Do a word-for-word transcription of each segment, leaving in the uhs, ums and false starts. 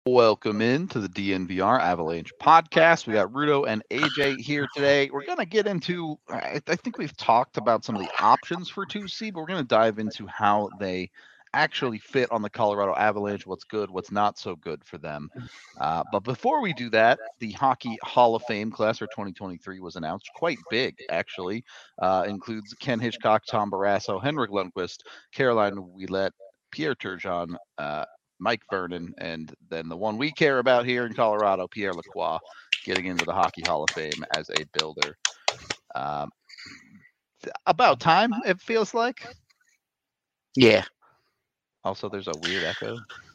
Welcome in to the D N V R Avalanche podcast. We got Rudo and A J here today. We're going to get into, I, I think we've talked about some of the options for two C, but we're going to dive into how they actually fit on the Colorado Avalanche, what's good, what's not so good for them. Uh, but before we do that, the Hockey Hall of Fame class for twenty twenty-three was announced, quite big, actually. Uh, includes Ken Hitchcock, Tom Barrasso, Henrik Lundqvist, Caroline Ouellette, Pierre Turgeon, uh, Mike Vernon, and then the one we care about here in Colorado, Pierre Lacroix, getting into the Hockey Hall of Fame as a builder. Um, about time, it feels like. Yeah. Also, there's a weird echo.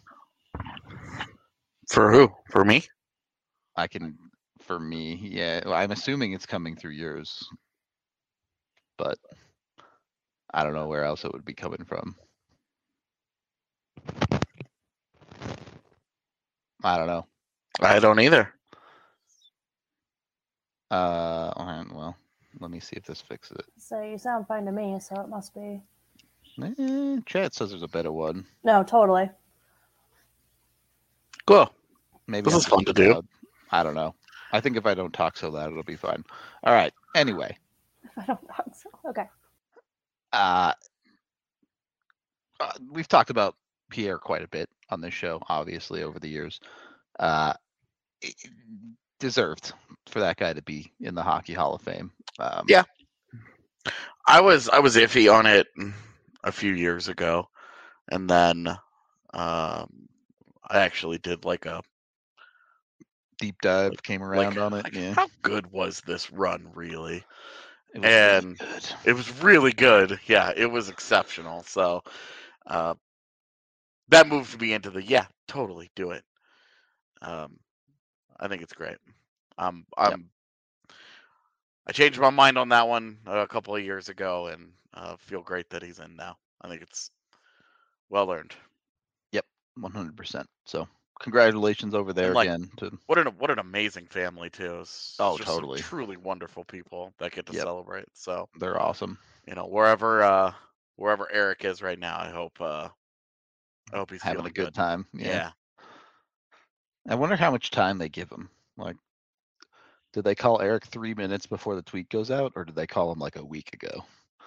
For who? For me? I can, for me, yeah. I'm assuming it's coming through yours, but I don't know where else it would be coming from. I don't know. I don't either. Uh, well, let me see if this fixes it. So you sound fine to me, so it must be. Eh, chat says there's a better one. No, totally. Cool. Maybe this I'm is fun to loud. do. I don't know. I think if I don't talk so loud, it'll be fine. All right. Anyway. If I don't talk so. Okay. Uh, uh, we've talked about Pierre quite a bit on this show, obviously, over the years. Uh, deserved for that guy to be in the Hockey Hall of Fame. Um, yeah. I was I was iffy on it a few years ago, and then um, I actually did like a deep dive, like, came around like, on it. Like, yeah. How good was this run, really? It was and really good. It was really good. Yeah, it was exceptional. So uh, that moved me into the yeah, totally do it. Um, I think it's great. Um, I'm. Yep. I changed my mind on that one a couple of years ago, and uh, feel great that he's in now. I think it's well earned. Yep, one hundred percent. So congratulations over there like, again. To... What an what an amazing family too. It's oh, just totally. Truly wonderful people that get to yep. celebrate. So they're awesome. You know, wherever uh, wherever Eric is right now, I hope uh, I hope he's having a good, good time. Yeah. yeah. I wonder how much time they give him. Like, did they call Eric three minutes before the tweet goes out, or did they call him like a week ago?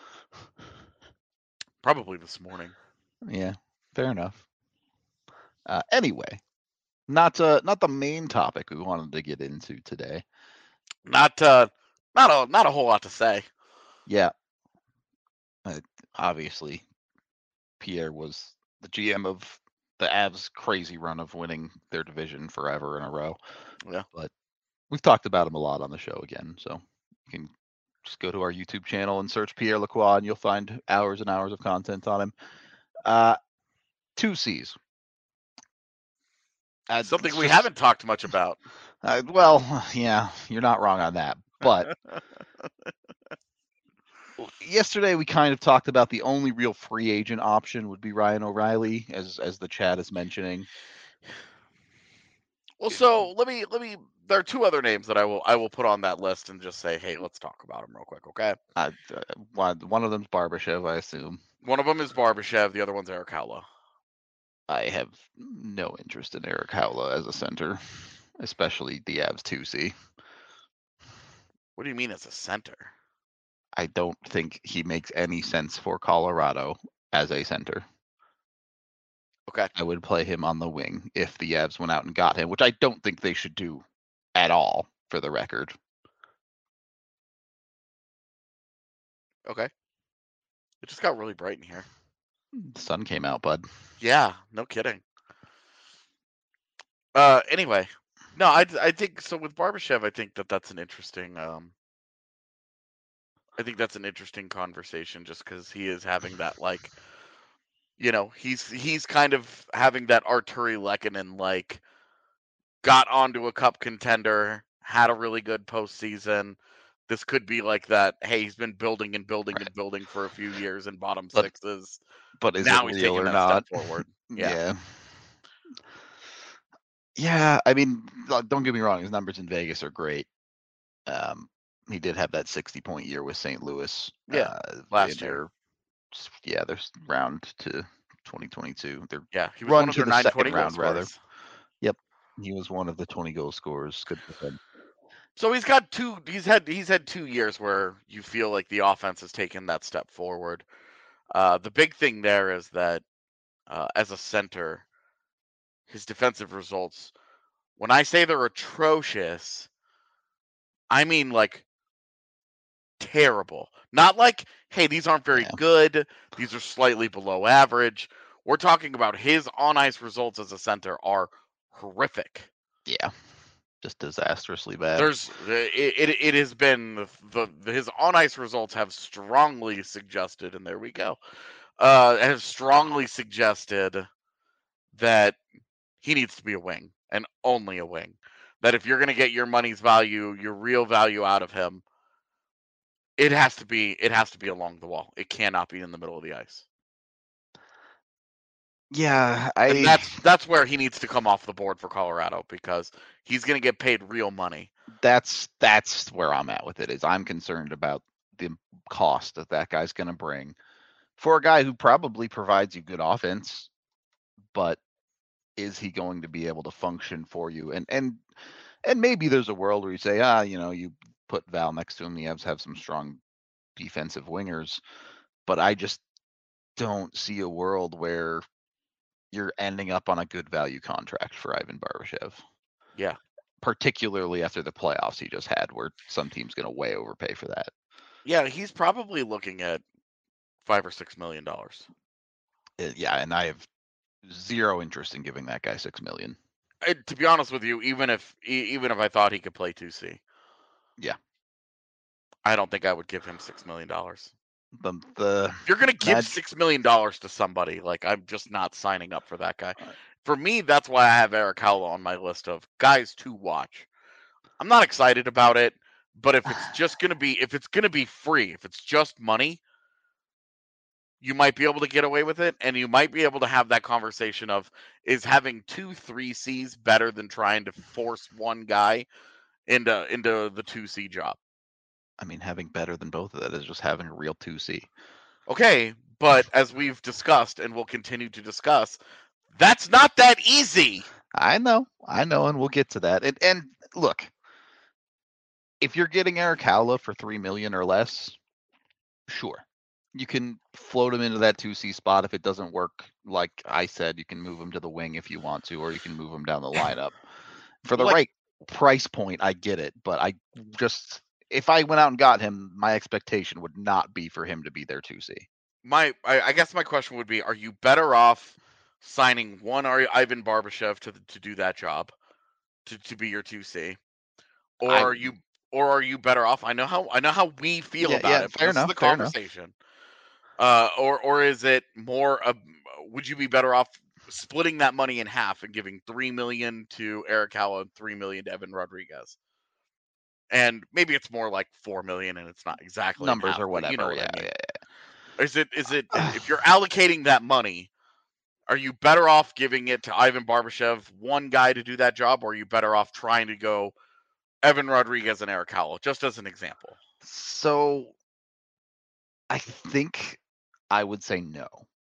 Probably this morning. Yeah, fair enough. Uh, anyway, not uh, not the main topic we wanted to get into today. Not uh, not a not a whole lot to say. Yeah. Uh, obviously, Pierre was the G M of the Avs' crazy run of winning their division forever in a row. Yeah. But we've talked about him a lot on the show again, so you can just go to our YouTube channel and search Pierre Lacroix, and you'll find hours and hours of content on him. Uh, two C's. Uh, Something we just, haven't talked much about. Uh, well, yeah, you're not wrong on that. But yesterday we kind of talked about the only real free agent option would be Ryan O'Reilly, as as the chat is mentioning. Well, so let me let me. There are two other names that I will I will put on that list and just say, hey, let's talk about them real quick, okay? Uh, one one of them's Barbashev, I assume. One of them is Barbashev. The other one's Erik Haula. I have no interest in Erik Haula as a center, especially the Avs two C. What do you mean as a center? I don't think he makes any sense for Colorado as a center. Okay. I would play him on the wing if the Avs went out and got him, which I don't think they should do at all, for the record. Okay. It just got really bright in here. The sun came out, bud. Yeah, no kidding. Uh, anyway, no, I, I think so with Barbashev. I think that that's an interesting. Um, I think that's an interesting conversation, just because he is having that like, you know, he's he's kind of having that Arturi Lehkonen like, got onto a cup contender, had a really good postseason. This could be like that. Hey, he's been building and building right. and building for a few years in bottom but, sixes. But is now it he's real taking or that not? step forward. Yeah. yeah. Yeah, I mean, don't get me wrong. His numbers in Vegas are great. Um, he did have that sixty-point year with Saint Louis. Yeah, uh, last year. Their, yeah, their round to twenty twenty-two. Their yeah, he was run one of to their the nine second round, rather. Yep. He was one of the twenty goal scorers. Good for him. So he's got two. He's had he's had two years where you feel like the offense has taken that step forward. Uh, the big thing there is that uh, as a center, his defensive results. When I say they're atrocious, I mean like terrible. Not like, hey, these aren't very Yeah. good. These are slightly below average. We're talking about his on ice results as a center are horrific. Yeah. Just disastrously bad. There's it, it, it has been the, the his on ice results have strongly suggested, and there we go, uh, have strongly suggested that he needs to be a wing and only a wing. That if you're going to get your money's value, your real value out of him, it has to be it has to be along the wall. It cannot be in the middle of the ice. Yeah, I. And that's that's where he needs to come off the board for Colorado because he's going to get paid real money. That's that's where I'm at with it. Is I'm concerned about the cost that that guy's going to bring for a guy who probably provides you good offense, but is he going to be able to function for you? And and and maybe there's a world where you say, ah, you know, you put Val next to him, the Avs have some strong defensive wingers, but I just don't see a world where you're ending up on a good value contract for Ivan Barbashev. Yeah. Particularly after the playoffs he just had, where some team's going to way overpay for that. Yeah, he's probably looking at five or six million dollars. Uh, yeah, and I have zero interest in giving that guy six million. I, to be honest with you, even if even if I thought he could play two C, yeah, I don't think I would give him six million dollars. The the if you're gonna give Mag- six million dollars to somebody, like I'm just not signing up for that guy. For me, that's why I have Erik Haula on my list of guys to watch. I'm not excited about it, but if it's just gonna be if it's gonna be free, if it's just money, you might be able to get away with it, and you might be able to have that conversation of is having two three C's better than trying to force one guy into into the two C job. I mean, having better than both of that is just having a real two C. Okay, but as we've discussed and will continue to discuss, that's not that easy. I know, I know, and we'll get to that. And and look, if you're getting Erik Haula for three million or less, sure, you can float him into that two C spot. If it doesn't work, like I said, you can move him to the wing if you want to, or you can move him down the lineup. For the Like- right price point, I get it, but I just if I went out and got him, my expectation would not be for him to be their two C. My, I, I guess my question would be: are you better off signing one Ivan Barbashev to to do that job, to, to be your two C, or I- are you or are you better off? I know how I know how we feel Yeah, about yeah, it. But fair this enough, is the fair enough. conversation. Uh, or or is it more? Uh, would you be better off splitting that money in half and giving three million to Erik Haula and three million to Evan Rodriguez? And maybe it's more like four million, and it's not exactly in Numbers half, or but whatever. You know what yeah, I mean. yeah. Is it is it if you're allocating that money, are you better off giving it to Ivan Barbashev, one guy to do that job, or are you better off trying to go Evan Rodriguez and Erik Haula, just as an example? So I think I would say no.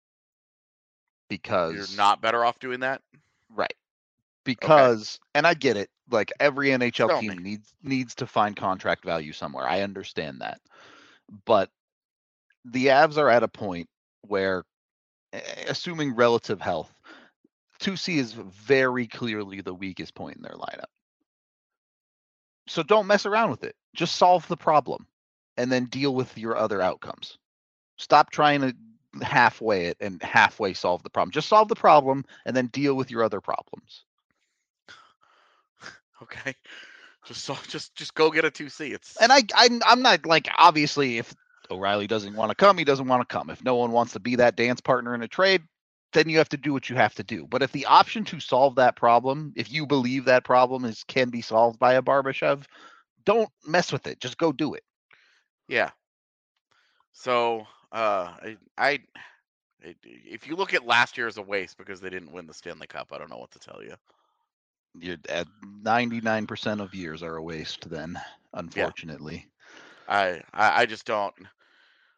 Because You're not better off doing that? Right. Because and I get it, like every N H L Tell team me. needs needs to find contract value somewhere. I understand that. But the Avs are at a point where, assuming relative health, two C is very clearly the weakest point in their lineup. So don't mess around with it. Just solve the problem and then deal with your other outcomes. Stop trying to halfway it and halfway solve the problem. Just solve the problem and then deal with your other problems. Okay. Just so, just just go get a two C. It's And I, I I'm not like, obviously if O'Reilly doesn't want to come, he doesn't want to come. If no one wants to be that dance partner in a trade, then you have to do what you have to do. But if the option to solve that problem, if you believe that problem is can be solved by a Barbashev, don't mess with it. Just go do it. Yeah. So uh, I, I it, if you look at last year as a waste because they didn't win the Stanley Cup, I don't know what to tell you. You're at ninety-nine percent of years are a waste then, unfortunately. I, I I just don't.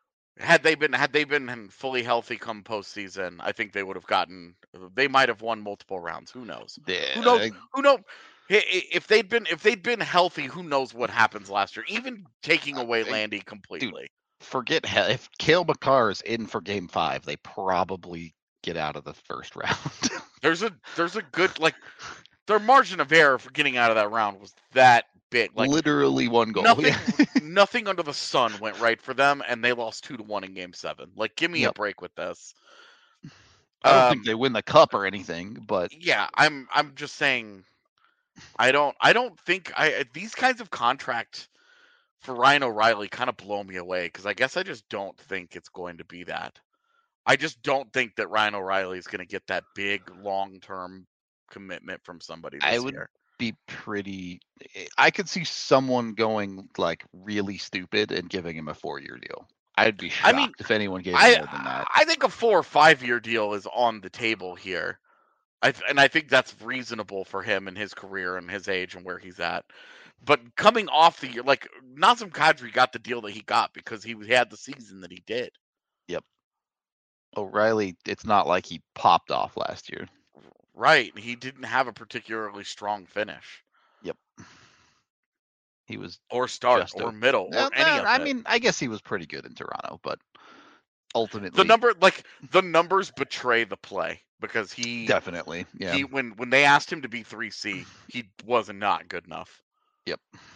had they been had they been fully healthy come postseason, I think they would have gotten. They might have won multiple rounds. Who knows? Yeah, Who knows? Who knows? If they'd been if they'd been healthy, who knows what happens last year? Even taking away Landy completely. Dude, forget hell. If Cale Makar is in for Game Five, they probably get out of the first round. there's a there's a good like their margin of error for getting out of that round was that big. Like literally one goal. Nothing, Yeah. nothing under the sun went right for them, and they lost two to one in Game Seven. Like, give me Yep. a break with this. I don't Um, think they win the cup or anything, but yeah, I'm I'm just saying. I don't I don't think I these kinds of contract for Ryan O'Reilly kind of blow me away because I guess I just don't think it's going to be that. I just don't think that Ryan O'Reilly is going to get that big long term commitment from somebody this I would year. be pretty. I could see someone going like really stupid and giving him a four-year deal. I'd be shocked I mean, if anyone gave him I more than that. I think a four or five year deal is on the table here. I th- and I think that's reasonable for him and his career and his age and where he's at. But coming off the year, like Nazem Kadri got the deal that he got because he had the season that he did. Yep. O'Reilly, it's not like he popped off last year. Right. He didn't have a particularly strong finish. Yep. He was or start just or a- middle Well, or any eh, of I it. mean, I guess he was pretty good in Toronto, but ultimately, The number like the numbers betray the play because he definitely, yeah. he when when they asked him to be three C, he was not good enough. Yep.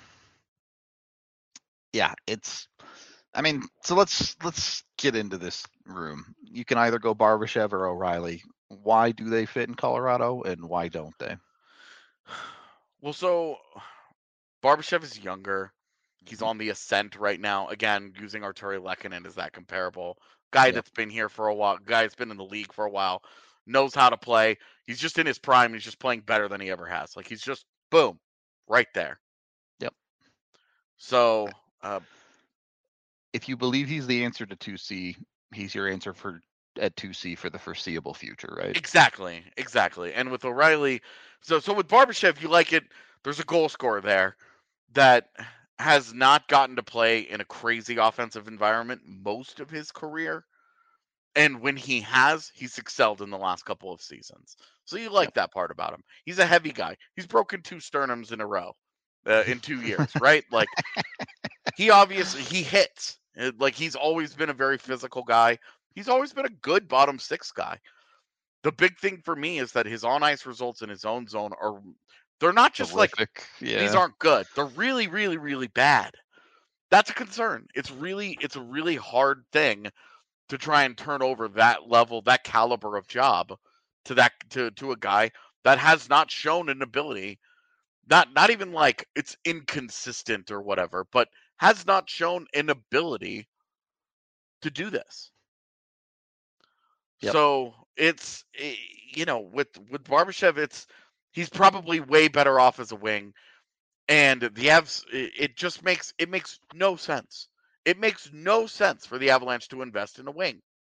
Yeah, it's. I mean, so let's let's get into this room. You can either go Barbashev or O'Reilly. Why do they fit in Colorado, and why don't they? Well, so Barbashev is younger. He's Mhm. on the ascent right now. Again, using Arturi Lehkonen, is that comparable? Guy Yep. that's been here for a while, guy that's been in the league for a while, knows how to play. He's just in his prime. He's just playing better than he ever has. Like he's just boom, right there. Yep. So, uh, If you believe he's the answer to two C, he's your answer for at two C for the foreseeable future, right? exactly, exactly. And with O'Reilly, so so with Barbashev, you like it. There's a goal scorer there that has not gotten to play in a crazy offensive environment most of his career. And when he has, he's excelled in the last couple of seasons. So you like Yep. that part about him. He's a heavy guy. He's broken two sternums in a row uh, in two years, right? Like he obviously he hits. Uh, Like he's always been a very physical guy. He's always been a good bottom six guy. The big thing for me is that his on ice results in his own zone are they're not just like Horrific. Yeah. these aren't good. They're really, really, really bad. That's a concern. It's really, it's a really hard thing to try and turn over that level, that caliber of job to that to to a guy that has not shown an ability, not not even like it's inconsistent or whatever, but has not shown an ability to do this. Yep. So it's eh, you know with with Barbashev, it's he's probably way better off as a wing. And the Avs, it it just makes it makes no sense. It makes no sense for the Avalanche to invest in a wing.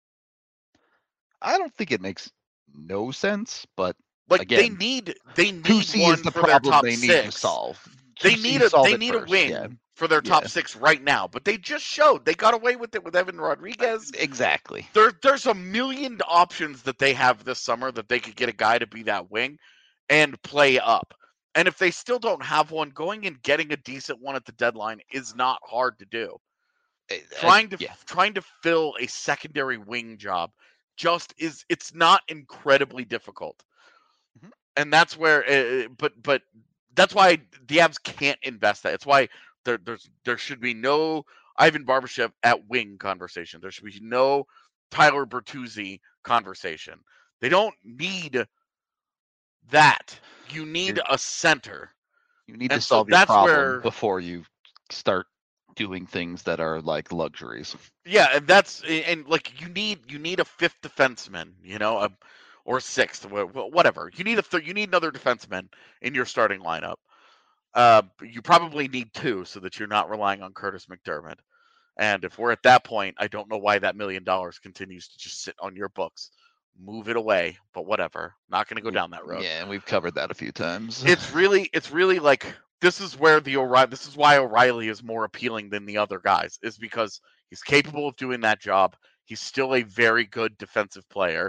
I don't think it makes no sense, but Like they Again, need they two need C one is the for their problem top they need six. to solve. They two C need a solve they it need first, a wing yeah. for their top Yeah. six right now. But they just showed they got away with it with Evan Rodriguez. Exactly. There there's a million options that they have this summer that they could get a guy to be that wing and play up. And if they still don't have one, going and getting a decent one at the deadline is not hard to do. Uh, trying to yeah. trying to fill a secondary wing job just is it's not incredibly difficult. Mhm. And that's where uh, but but that's why the Avs can't invest that. It's why there there's there should be no Ivan Barbashev at wing conversation. There should be no Tyler Bertuzzi conversation. They don't need that. You need You're- a center. You need And to so solve your that's problem where- before you start doing things that are like luxuries. Yeah, and that's and like you need you need a fifth defenseman, you know, a, or a sixth, wh- wh- whatever. You need a th- you need another defenseman in your starting lineup. Uh, you probably need two so that you're not relying on Curtis McDermott. And if we're at that point, I don't know why that million dollars continues to just sit on your books. Move it away, but whatever. Not going to go down that road. Yeah, and we've covered that a few times. It's really it's really like this is where the O'Reilly this is why O'Reilly is more appealing than the other guys is because He's capable of doing that job. He's still a very good defensive player.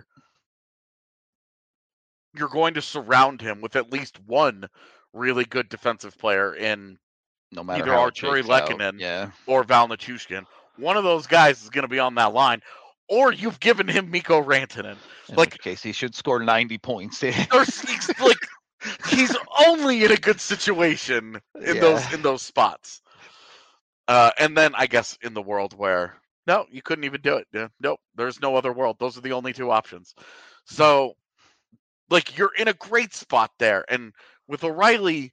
You're going to surround him with at least one really good defensive player in No matter either how it Arturi shakes out. Lehkonen Yeah. or Val Nichushkin. One of those guys is going to be on that line, or you've given him Mikko Rantanen. In Like, which case, he should score ninety points. there's, he's, like, he's only in a good situation in Yeah. those in those spots. Uh, and then I guess in the world where no, you couldn't even do it. Yeah, nope, there's no other world. Those are the only two options. So, like, you're in a great spot there. And with O'Reilly,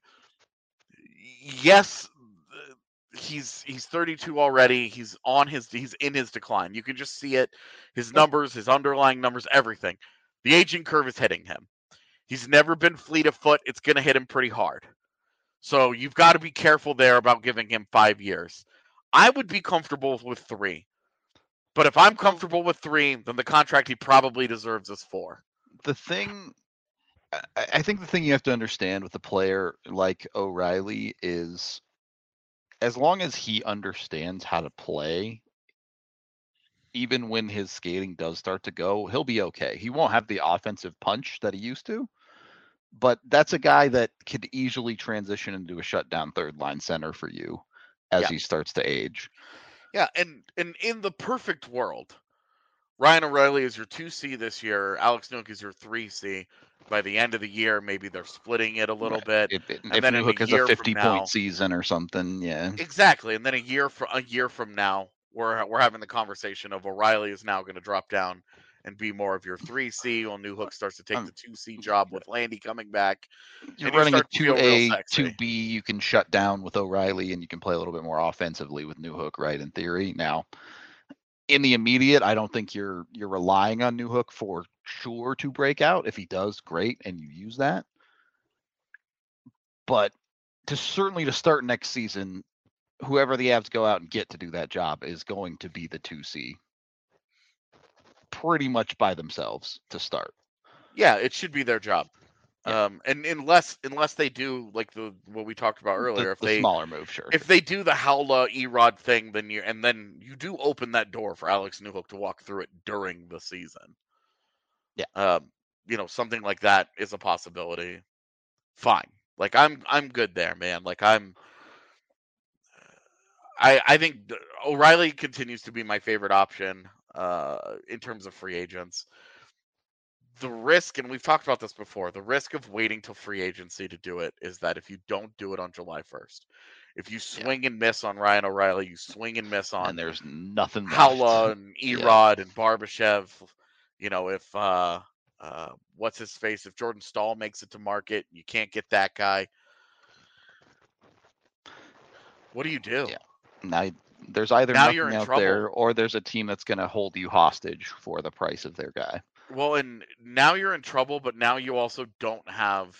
yes, he's he's thirty-two already. He's on his he's in his decline. You can just see it. His numbers, his underlying numbers, everything. The aging curve is hitting him. He's never been fleet of foot. It's going to hit him pretty hard. So you've got to be careful there about giving him five years. I would be comfortable with three. But if I'm comfortable with three, then the contract he probably deserves is four. The thing, I, I think the thing you have to understand with a player like O'Reilly is, as long as he understands how to play, even when his skating does start to go, he'll be okay. He won't have the offensive punch that he used to, but that's a guy that could easily transition into a shutdown third line center for you as Yeah. he starts to age. Yeah, and, and in the perfect world, Ryan O'Reilly is your two C this year. Alex Newhook is your three C. By the end of the year, maybe they're splitting it a little bit. If, if And then in Newhook a has year a from fifty now- point season or something, yeah. Exactly, and then a year from a year from now, we're we're having the conversation of O'Reilly is now going to drop down and be more of your three C, while Newhook starts to take Um, the two C job with Landy coming back. You're and you running a start to feel two real A, sexy. two B, you can shut down with O'Reilly and you can play a little bit more offensively with Newhook, right, in theory. Now, in the immediate, I don't think you're you're relying on Newhook for sure to break out. If he does, great, and you use that. But to certainly to start next season, whoever the Avs go out and get to do that job is going to be the two C pretty much by themselves to start. Yeah, it should be their job. Yeah. Um, and unless unless they do like the what we talked about earlier, The, if the they smaller move, sure. if they do the Howla Erod thing, then you and then you do open that door for Alex Newhook to walk through it during the season. Yeah. Um, you know, something like that is a possibility. Fine. Like I'm I'm good there, man. Like I'm I I think th- O'Reilly continues to be my favorite option uh in terms of free agents. The risk, and we've talked about this before, the risk of waiting till free agency to do it is that if you don't do it on July first, if you swing and miss on Ryan O'Reilly, you swing and miss on and there's nothing left. Howla and Yeah. Erod and Barbashev, you know, if uh uh what's his face, if Jordan Stahl makes it to market, you can't get that guy. What do you do? Yeah. Now, there's either Now you're nothing in out trouble. there or there's a team that's going to hold you hostage for the price of their guy. Well, and now you're in trouble, but now you also don't have,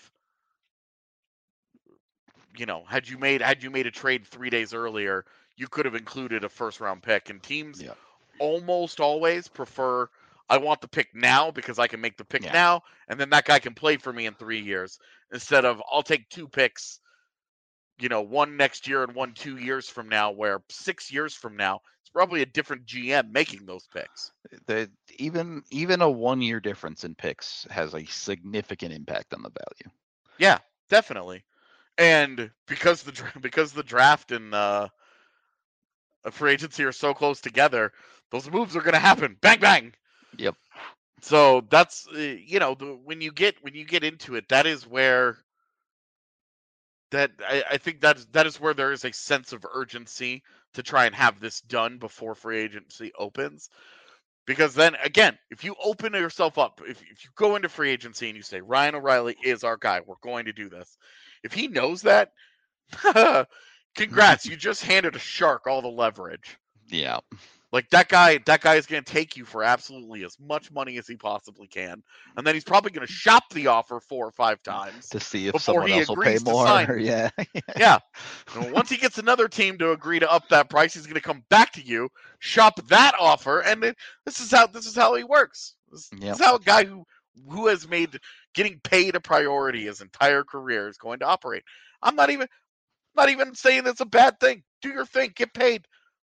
you know, had you made had you made a trade three days earlier, you could have included a first round pick. And teams Yeah. almost always prefer, I want the pick now because I can make the pick Yeah. now, and then that guy can play for me in three years instead of I'll take two picks, you know, one next year and one two years from now, where six years from now it's probably a different G M making those picks. The, even even a one year difference in picks has a significant impact on the value. Yeah, definitely. And because the dra- because the draft and uh, a free agency are so close together, those moves are going to happen. Bang bang. Yep. So that's uh, you know the, when you get when you get into it, that is where that I, I think that that is where there is a sense of urgency to try and have this done before free agency opens. Because then again, if you open yourself up, if, if you go into free agency and you say Ryan O'Reilly is our guy, we're going to do this. If he knows that, congrats, you just handed a shark all the leverage. Yeah. Like that guy, that guy is going to take you for absolutely as much money as he possibly can, and then he's probably going to shop the offer four or five times To see if before someone he else will pay agrees to more. sign. Yeah. Yeah. And once he gets another team to agree to up that price, he's going to come back to you, shop that offer, and it, this is how this is how he works. This, Yep. this is how a guy who who has made getting paid a priority his entire career is going to operate. I'm not even not even saying it's a bad thing. Do your thing, get paid.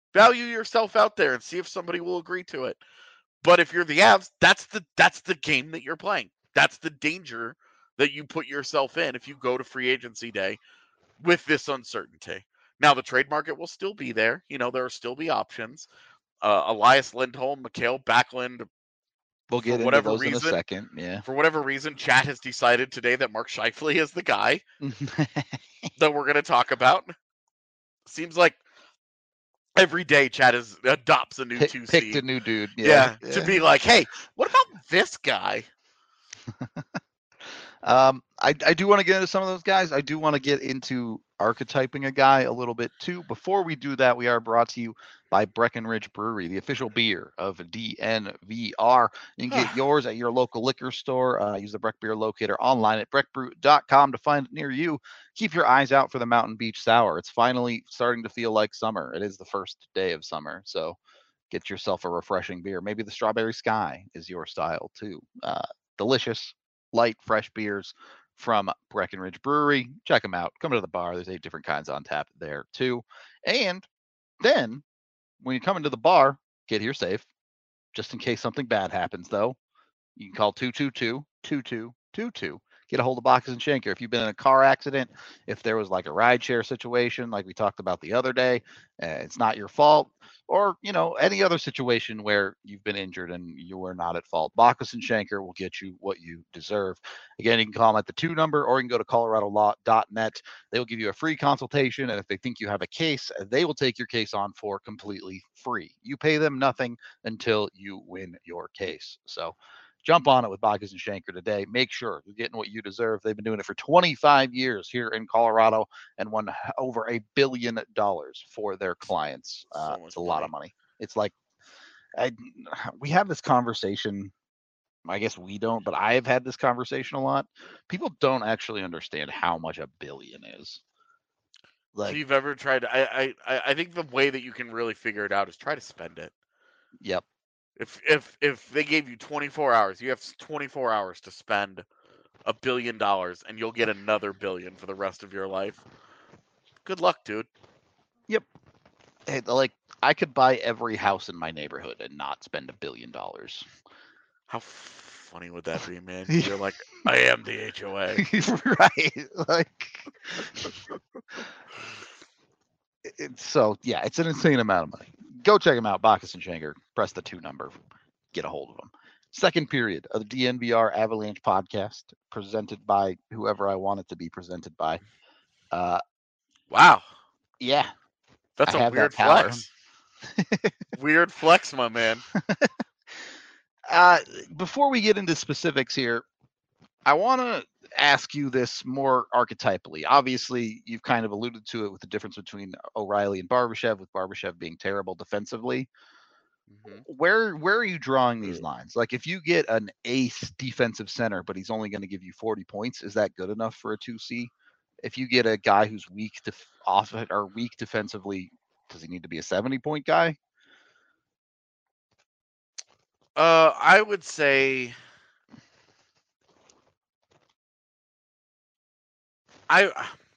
Value yourself out there and see if somebody will agree to it. But if you're the Avs, that's the that's the game that you're playing. That's the danger that you put yourself in if you go to free agency day with this uncertainty. Now, the trade market will still be there. You know, there will still be options. Uh, Elias Lindholm, Mikhail Backlund. We'll get for into whatever those reason, in a second. Yeah. For whatever reason, Chat has decided today that Mark Scheifele is the guy that we're going to talk about. Seems like every day Chat is adopts a new Pick, two C. Picked a new dude. Yeah, Yeah, yeah, to be like, hey, what about this guy? Um, I, I do want to get into some of those guys. I do want to get into archetyping a guy a little bit too. Before we do that, we are brought to you by Breckenridge Brewery, the official beer of D N V R. You can get yours at your local liquor store. Uh, use the Breck Beer Locator online at breck brew dot com to find it near you. Keep your eyes out for the Mountain Beach Sour. It's finally starting to feel like summer. It is the first day of summer, so get yourself a refreshing beer. Maybe the Strawberry Sky is your style too. Uh, delicious, light, fresh beers from Breckenridge Brewery. Check them out. Come to the bar. There's eight different kinds on tap there too. And then when you come into the bar, get here safe. Just in case something bad happens, though, you can call two two two, two two two two. Get a hold of Bacchus and Schenker. If you've been in a car accident, if there was like a rideshare situation like we talked about the other day, uh, it's not your fault, or, you know, any other situation where you've been injured and you were not at fault. Bacchus and Schenker will get you what you deserve. Again, you can call them at the two number, or you can go to colorado law dot net. They will give you a free consultation, and if they think you have a case, they will take your case on for completely free. You pay them nothing until you win your case. So jump on it with Bacchus and Schenker today. Make sure you're getting what you deserve. They've been doing it for twenty-five years here in Colorado and won over a billion dollars for their clients. Uh, So it's a lot money. of money. It's like I, we have this conversation. I guess we don't, but I've had this conversation a lot. People don't actually understand how much a billion is. Like, so you've ever tried? I, I I think the way that you can really figure it out is try to spend it. Yep. If if if they gave you twenty-four hours, you have twenty-four hours to spend a billion dollars, and you'll get another billion for the rest of your life. Good luck, dude. Yep. Hey, like I could buy every house in my neighborhood and not spend a billion dollars. How funny would that be, man? You're like, I am the H O A. Right. Like it's so yeah, it's an insane amount of money. Go check them out, Bacchus and Schenker. Press the two number, get a hold of them. Second period of the D N V R Avalanche podcast, presented by whoever I want it to be presented by. Uh, wow. Yeah. That's I a weird flex. Weird flex, my man. Uh, before we get into specifics here, I want to ask you this more archetypally. Obviously, you've kind of alluded to it with the difference between O'Reilly and Barbashev, with Barbashev being terrible defensively. Mm-hmm. Where where are you drawing these lines? Like, if you get an ace defensive center, but he's only going to give you forty points, is that good enough for a two C? If you get a guy who's weak to off or weak defensively, does he need to be a seventy point guy? Uh, I would say I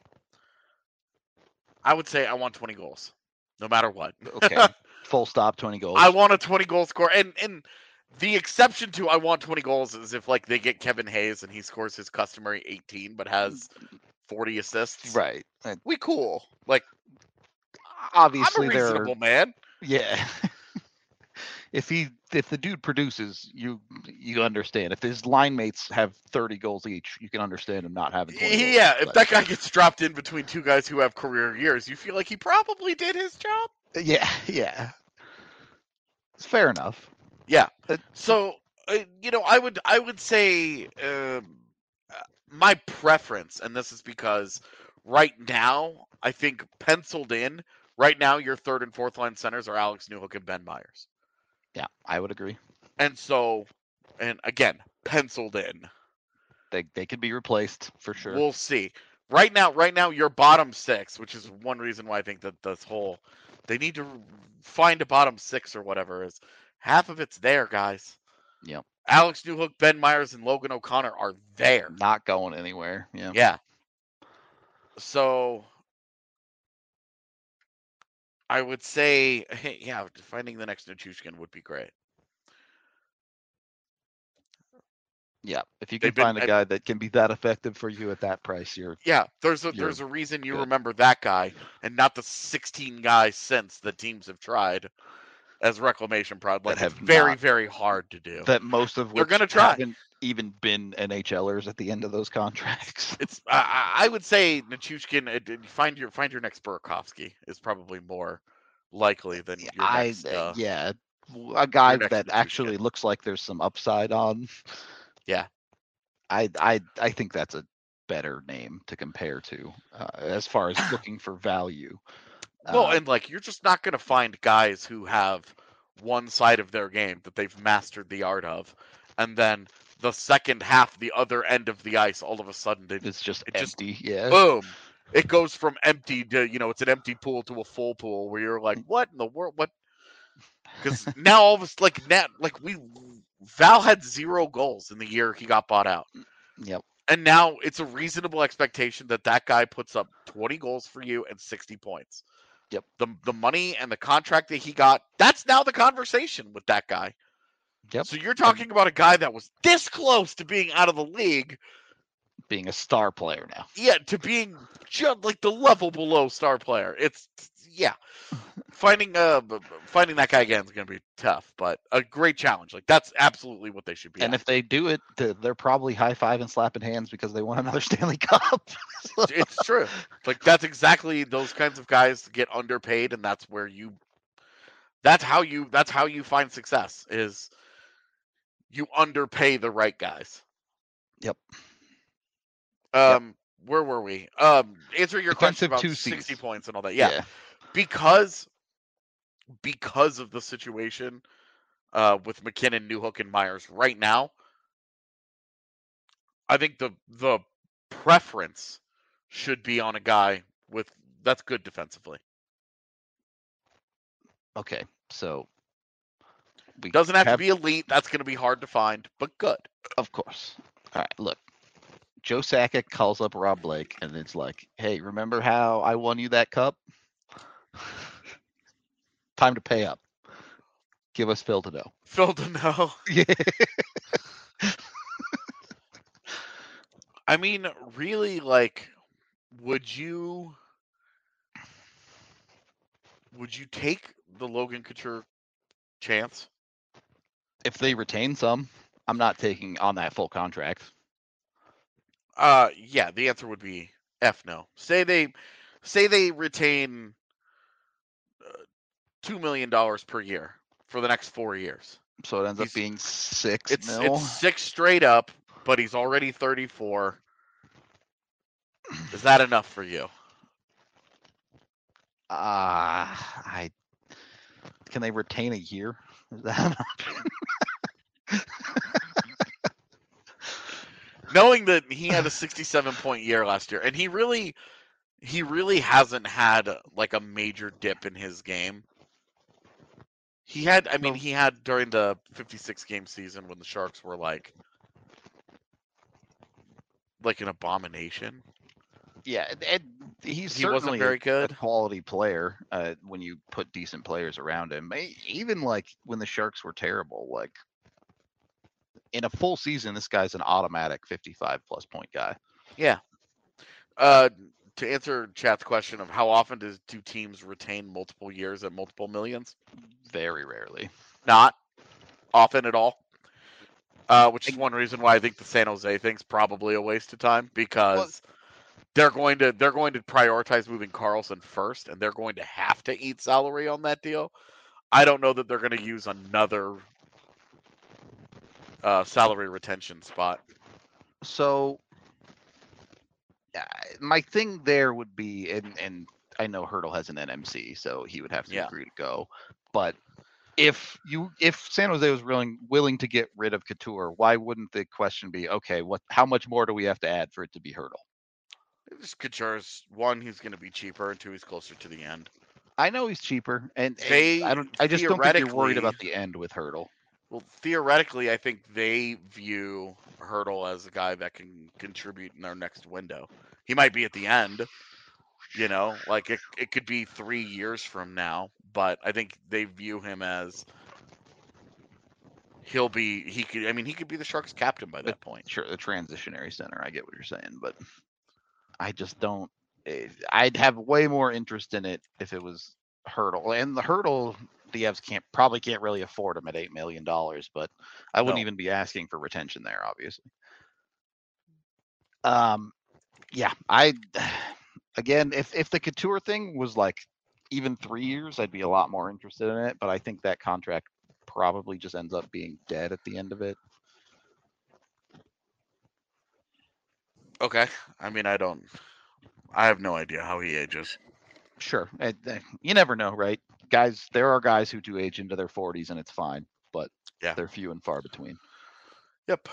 I would say I want twenty goals, no matter what. Okay, full stop, twenty goals. I want a twenty goal score, and and the exception to I want twenty goals is if like they get Kevin Hayes and he scores his customary eighteen, but has forty assists. Right. We cool. Like, obviously, I'm a reasonable man. Yeah. If he if the dude produces, you you understand. If his line mates have thirty goals each, you can understand him not having twenty goals. Yeah, if that guy gets dropped in between two guys who have career years, you feel like he probably did his job. Yeah, yeah. It's fair enough. Yeah. So, uh, you know, I would I would say uh, my preference, and this is because right now I think penciled in right now your third and fourth line centers are Alex Newhook and Ben Myers. Yeah, I would agree. And so, and again, penciled in. They they could be replaced for sure. We'll see. Right now, right now, your bottom six, which is one reason why I think that this whole, they need to find a bottom six or whatever, is half of it's there, guys. Yep. Alex Newhook, Ben Myers, and Logan O'Connor are there. Not going anywhere. Yeah. Yeah. So, I would say, hey, yeah, finding the next Nichushkin would be great. Yeah, if you can They've been, find a I- guy that can be that effective for you at that price, you're Yeah, there's a You're there's a reason you good. remember that guy and not the sixteen guys since the teams have tried as reclamation prod. Like That it's have very not- very hard to do. that most of They're which gonna try. haven't even been NHLers at the end of those contracts. It's I, I I would say Nichushkin. uh, d- Find your find your next Burakovsky is probably more likely than your I next. Uh, yeah, a guy next that Nichushkin. actually looks like there's some upside on. Yeah. I I I think that's a better name to compare to uh, as far as looking for value. Well, Uh, and like you're just not gonna find guys who have one side of their game that they've mastered the art of, and then the second half, the other end of the ice, all of a sudden they it's just it just empty. yeah. boom. It goes from empty to, you know, it's an empty pool to a full pool where you're like, what in the world? What? Because now all of us, like, now, like we, Val had zero goals in the year he got bought out. Yep. And now it's a reasonable expectation that that guy puts up twenty goals for you and sixty points. Yep. The, the money and the contract that he got, that's now the conversation with that guy. Yep. So you're talking about a guy that was this close to being out of the league, Being a star player now. yeah, to being just like the level below star player. It's yeah, finding uh b- b- finding that guy again is going to be tough, but a great challenge. Like that's absolutely what they should be. And at. if they do it, th- they're probably high fiving, slapping hands because they want another Stanley Cup. So- It's true. Like that's exactly those kinds of guys get underpaid, and that's where you. That's how you. That's how you find success. Is you underpay the right guys. Yep. Um, where were we? Um, answering your question Defensive about two sixty Cs. points and all that. Yeah, because because of the situation uh, with McKinnon, Newhook, and Myers right now, I think the the preference should be on a guy with that's good defensively. Okay. So we Doesn't have, to be elite. That's going to be hard to find, but good. Of course. All right. Look, Joe Sakic calls up Rob Blake, and it's like, "Hey, remember how I won you that cup? Time to pay up. Give us Phil to know." Phil to know. Yeah. I mean, really, like, would you would you take the Logan Couture chance? If they retain some, I'm not taking on that full contract. Uh, yeah, the answer would be F no. Say they say they retain uh, two million dollars per year for the next four years. So it ends He's- up being six It's mil. it's six straight up, but he's already thirty-four. Is that enough for you? Ah, I can they retain a year? Is that an option? Knowing that he had a sixty-seven point year last year, and he really, he really hasn't had like a major dip in his game. He had, I mean, No. he had during the fifty-six game season when the Sharks were like, like an abomination. Yeah, and, and he's He wasn't certainly very a, good. a quality player uh, when you put decent players around him. E- Even like when the Sharks were terrible, like in a full season, this guy's an automatic fifty-five plus point guy. Yeah. Uh, to answer chat's question of how often does do teams retain multiple years at multiple millions? Very rarely. Not often at all. Uh, which is one reason why I think the San Jose thing's probably a waste of time because they're going to they're going to prioritize moving Carlson first, and they're going to have to eat salary on that deal. I don't know that they're going to use another uh, salary retention spot. So uh, my thing there would be, and and I know Hurdle has an N M C, so he would have to Yeah. agree to go. But if you if San Jose was willing willing to get rid of Couture, why wouldn't the question be, okay, what how much more do we have to add for it to be Hurdle? Just Couture's one, he's going to be cheaper, and two, he's closer to the end. I know he's cheaper, and, and They I don't. I just don't think you're worried theoretically- about the end with Hurdle. Well, theoretically, I think they view Hurdle as a guy that can contribute in their next window. He might be at the end, You know, like it, it could be three years from now, but I think they view him as he'll be he could I mean he could be the Sharks captain by that point. Sure, the transitionary center. I get what you're saying, but I just don't. eh, I'd have way more interest in it if it was Hurdle, and the Hurdle the Avs can't probably can't really afford him at eight million dollars, but I wouldn't No. even be asking for retention there, obviously. Um, yeah, I again, if if the Couture thing was like even three years, I'd be a lot more interested in it. But I think that contract probably just ends up being dead at the end of it. Okay. I mean, I don't. I have no idea how he ages. Sure, eh, eh, you never know, right? Guys, there are guys who do age into their forties, and it's fine, but Yeah. they're few and far between. Yep.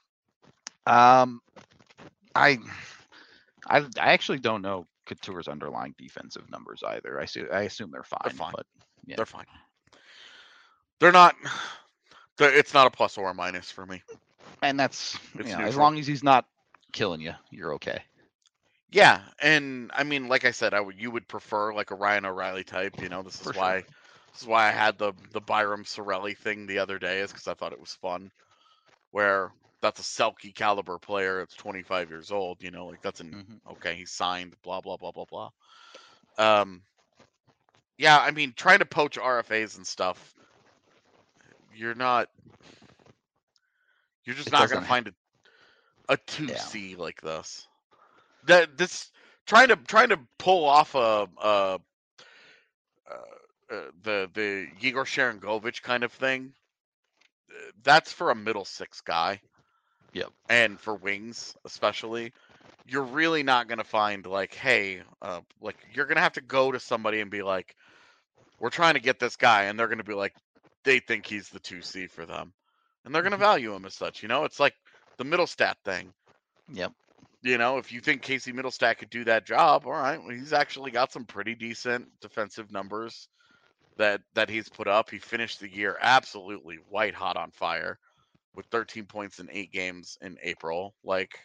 Um, I, I, I actually don't know Couture's underlying defensive numbers either. I see. I assume they're fine. They're fine. But yeah. They're fine. They're not. They're, it's not a plus or a minus for me. And that's It's you know, as neutral. long as he's not killing you, you're okay. Yeah, and I mean, like I said, I would you would prefer like a Ryan O'Reilly type. You know, this is For sure. why this is why I had the the Byram Sorelli thing the other day, is because I thought it was fun. Where that's a Selke caliber player. It's twenty-five years old. You know, like that's an Mhm. okay. He's signed. Blah blah blah blah blah. Um, yeah, I mean, trying to poach R F As and stuff, you're not. You're just It not going doesn't to ha- find a a two C like this. That this trying to trying to pull off a, a, uh uh, the the Igor Sharangovich kind of thing. uh, That's for a middle six guy. Yep. And for wings especially, you're really not going to find like, hey, uh, like you're going to have to go to somebody and be like, we're trying to get this guy, and they're going to be like, they think he's the two C for them, and they're going to value him as such. You know, it's like the Middlestat thing. Yep. You know, if you think Casey Middlestat could do that job, all right, well, he's actually got some pretty decent defensive numbers that that he's put up. He finished the year absolutely white hot on fire with thirteen points in eight games in April. Like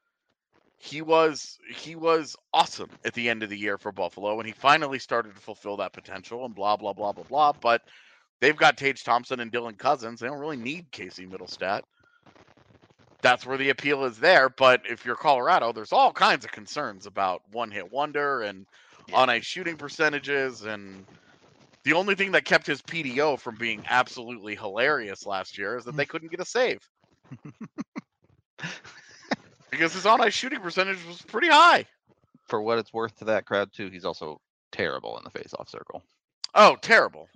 he was he was awesome at the end of the year for Buffalo, and he finally started to fulfill that potential and blah blah blah blah blah. But they've got Tage Thompson and Dylan Cousins. They don't really need Casey Middlestat. That's where the appeal is there. But if you're Colorado, there's all kinds of concerns about one hit wonder and Yeah. on ice shooting percentages. And the only thing that kept his P D O from being absolutely hilarious last year is that they couldn't get a save. Because his on ice shooting percentage was pretty high. For what it's worth to that crowd too, he's also terrible in the face-off circle. Oh, terrible.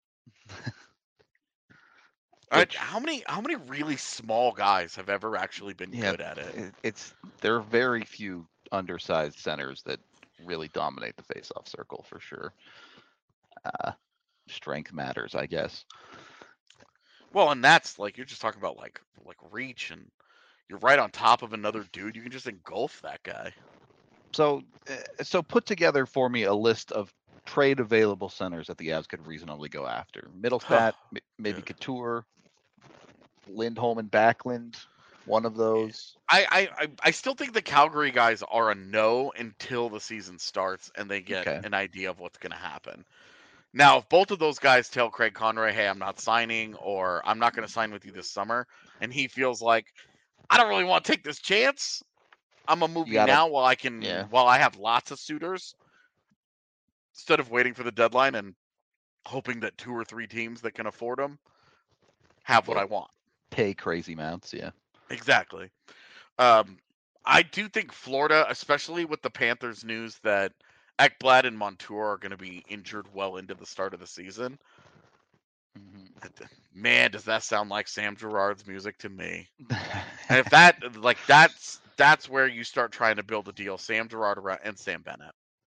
I- Which- how many how many really small guys have ever actually been Yeah, good at it? it- It's there are very few undersized centers that really dominate the face-off circle for sure. Uh, strength matters, I guess. Well, and that's like you're just talking about like like reach, and you're right on top of another dude. You can just engulf that guy. So, uh, so put together for me a list of trade available centers that the Avs could reasonably go after. Middlestat, m- maybe Yeah. Couture, Lindholm and Backlund, one of those. I, I I- I still think the Calgary guys are a no until the season starts and they get Okay. an idea of what's going to happen. Now, if both of those guys tell Craig Conroy, "Hey, I'm not signing," or "I'm not going to sign with you this summer," and he feels like, "I don't really want to take this chance. I'm gonna move You you gotta- now while I can, yeah. while I have lots of suitors, instead of waiting for the deadline and hoping that two or three teams that can afford them have what Well- I want." Pay crazy amounts, yeah. Exactly. Um, I do think Florida, especially with the Panthers news that Ekblad and Montour are going to be injured well into the start of the season. Mhm. Man, does that sound like Sam Girard's music to me? And if that, like, that's that's where you start trying to build a deal. Sam Girard around and Sam Bennett.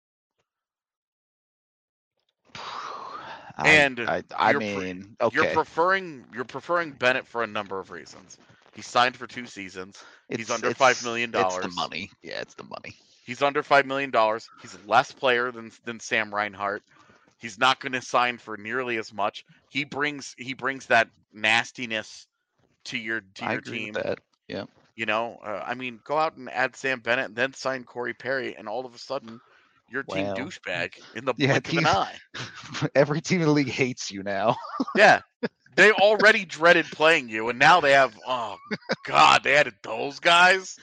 I, And I, I you're pre- mean, okay. You're preferring you're preferring Bennett for a number of reasons. He signed for two seasons. He's It's- under it's- five million It's the dollars. money. Yeah, it's the money. He's under five million dollars. He's less player than than Sam Reinhart. He's not going to sign for nearly as much. He brings he brings that nastiness to your to I your agree team. with that. Yeah. You know, uh, I mean, go out and add Sam Bennett and then sign Corey Perry, and all of a sudden, you're team Well, douchebag in the yeah, blink team, of an eye. every team in the league hates you now. Yeah. They already dreaded playing you, and now they have, oh, God, they added those guys?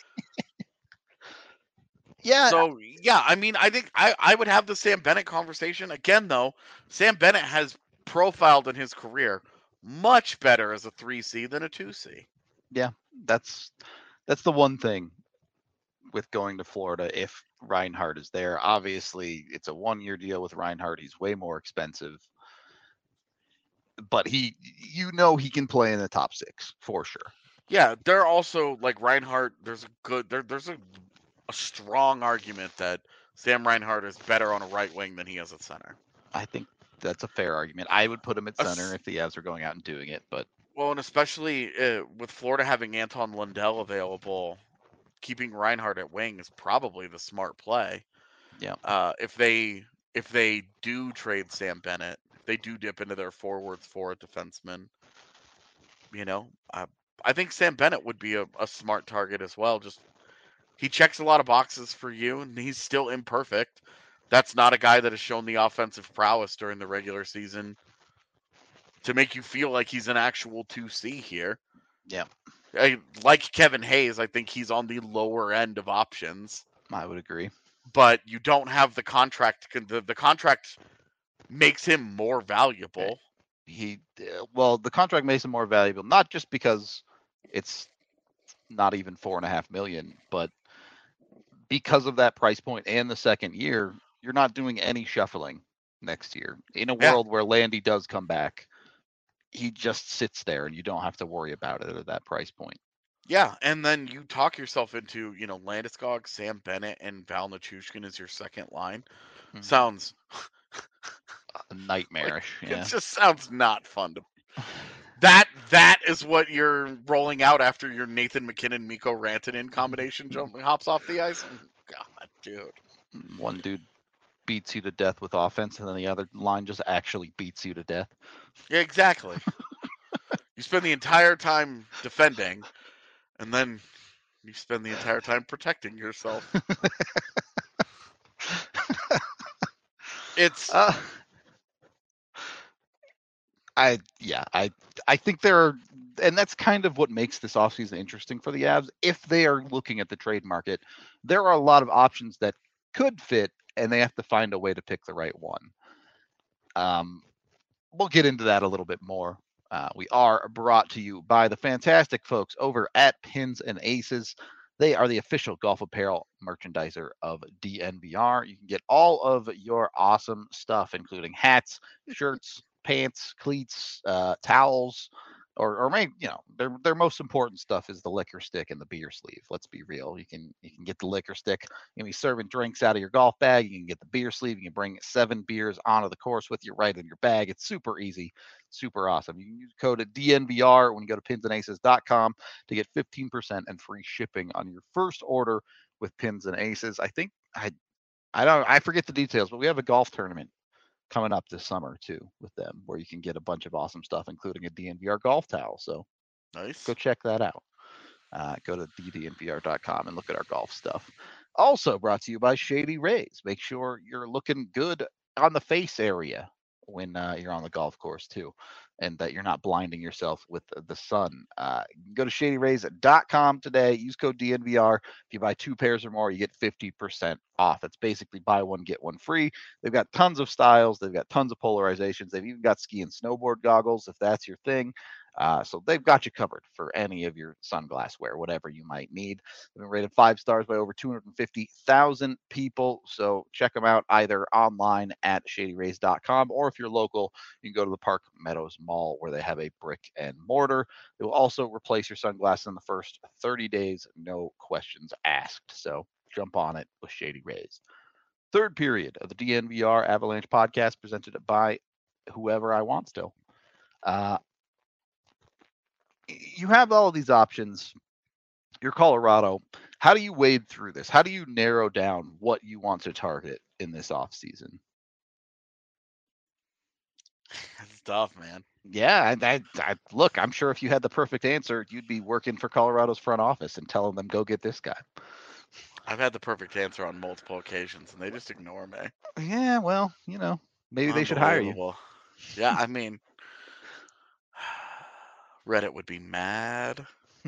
Yeah. So, yeah, I mean, I think I, I would have the Sam Bennett conversation. Again, though, Sam Bennett has profiled in his career much better as a three C than a two C. Yeah, that's that's the one thing with going to Florida if Reinhardt is there. Obviously, it's a one-year deal with Reinhardt. He's way more expensive. But he, you know, he can play in the top six for sure. Yeah, they're also like Reinhardt. There's a good there. There's a, a strong argument that Sam Reinhardt is better on a right wing than he is at center. I think that's a fair argument. I would put him at A center s- if the Avs are going out and doing it, but Well, and especially uh, with Florida having Anton Lundell available, keeping Reinhardt at wing is probably the smart play. yeah, Uh, if they if they do trade Sam Bennett, if they do dip into their forwards for a defenseman, you know, uh, I think Sam Bennett would be a, a smart target as well. Just he checks a lot of boxes for you, and he's still imperfect. That's not a guy that has shown the offensive prowess during the regular season to make you feel like he's an actual two C here. yeah, I, like Kevin Hayes, I think he's on the lower end of options, I would agree. but you don't have the contract. The, the contract makes him more valuable. He, uh, well, the contract makes him more valuable, not just because it's not even four and a half million, but because of that price point and the second year, you're not doing any shuffling next year. In a Yeah. world where Landy does come back, he just sits there and you don't have to worry about it at that price point. Yeah, and then you talk yourself into, you know, Landeskog, Sam Bennett, and Val Nichushkin as your second line. Mhm. Sounds Nightmarish. like, yeah. It just sounds not fun to. That that is what you're rolling out after your Nathan McKinnon, Mikko Rantanen combination jump hops off the ice. God, dude. One dude beats you to death with offense, and then the other line just actually beats you to death. Yeah, exactly. You spend the entire time defending, and then you spend the entire time protecting yourself. It's Uh, I yeah, I I think there are, and that's kind of what makes this offseason interesting for the Avs. If they are looking at the trade market, there are a lot of options that could fit, and they have to find a way to pick the right one. Um, we'll get into that a little bit more. Uh, we are brought to you by the fantastic folks over at Pins and Aces. They are the official golf apparel merchandiser of D N V R. You can get all of your awesome stuff, including hats, shirts, pants, cleats, uh, towels, or or maybe you know their their most important stuff is the liquor stick and the beer sleeve. Let's be real. You can you can get the liquor stick. You can be serving drinks out of your golf bag. You can get the beer sleeve. You can bring seven beers onto the course with you right in your bag. It's super easy, super awesome. You can use code D N V R when you go to pins and aces dot com to get fifteen percent and free shipping on your first order with Pins and Aces. I think I I don't I forget the details, but we have a golf tournament coming up this summer too with them where you can get a bunch of awesome stuff, including a D N V R golf towel. So nice. go check that out. Uh, go to d d n v r dot com and look at our golf stuff. Also brought to you by Shady Rays. Make sure you're looking good on the face area when uh, you're on the golf course too, and that you're not blinding yourself with the, the sun. Uh, go to shady rays dot com today. Use code D N V R. If you buy two pairs or more, you get fifty percent off. It's basically buy one, get one free. They've got tons of styles. They've got tons of polarizations. They've even got ski and snowboard goggles if that's your thing. Uh, so they've got you covered for any of your sunglass wear, whatever you might need. They've been rated five stars by over two hundred fifty thousand people. So check them out either online at shady rays dot com, or if you're local, you can go to the Park Meadows Mall where they have a brick and mortar. They will also replace your sunglasses in the first thirty days, no questions asked. So jump on it with Shady Rays. Third period of the D N V R Avalanche podcast presented by whoever I want still. Uh, you have all of these options. You're Colorado. How do you wade through this? How do you narrow down what you want to target in this offseason? It's tough, man. Yeah, I, I, I, look, I'm sure if you had the perfect answer, you'd be working for Colorado's front office and telling them, go get this guy. I've had the perfect answer on multiple occasions, and they just ignore me. Yeah, well, you know, maybe they should hire you. Unbelievable. Yeah, I mean, Reddit would be mad.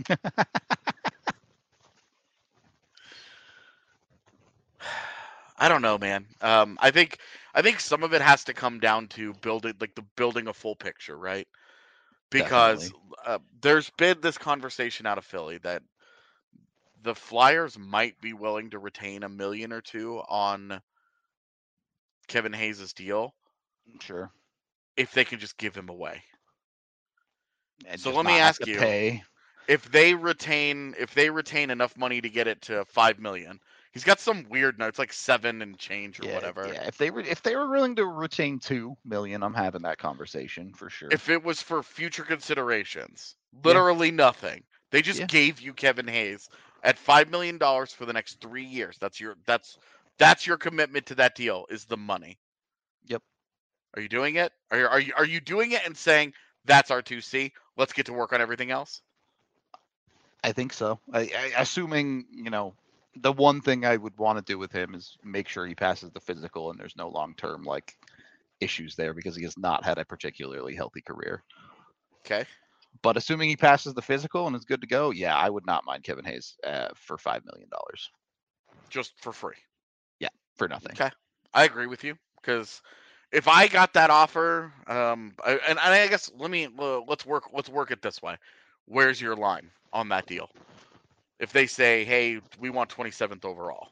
I don't know, man. Um, I think I think some of it has to come down to building like the building a full picture, right? Because Definitely. uh, there's been this conversation out of Philly that the Flyers might be willing to retain a million or two on Kevin Hayes' deal Sure. if they can just give him away. And So just let me not have ask to you, pay. if they retain if they retain enough money to get it to five million, he's got some weird notes like seven and change or Yeah, whatever. yeah. If they were if they were willing to retain two million, I'm having that conversation for sure. If it was for future considerations, Yeah. literally nothing. They just Yeah. gave you Kevin Hayes at five million dollars for the next three years. That's your that's that's your commitment to that deal is the money. Yep. Are you doing it? Are you, are you are you doing it and saying that's our two C? Let's get to work on everything else. I think so. I, I, assuming, you know, the one thing I would want to do with him is make sure he passes the physical and there's no long term like issues there because he has not had a particularly healthy career. Okay. But assuming he passes the physical and is good to go, yeah, I would not mind Kevin Hayes uh, for five million dollars. Just for free. Yeah, for nothing. Okay. I agree with you because if I got that offer, um, I, and, and I guess let me uh, let's work let's work it this way. Where's your line on that deal? If they say, "Hey, we want twenty-seventh overall,"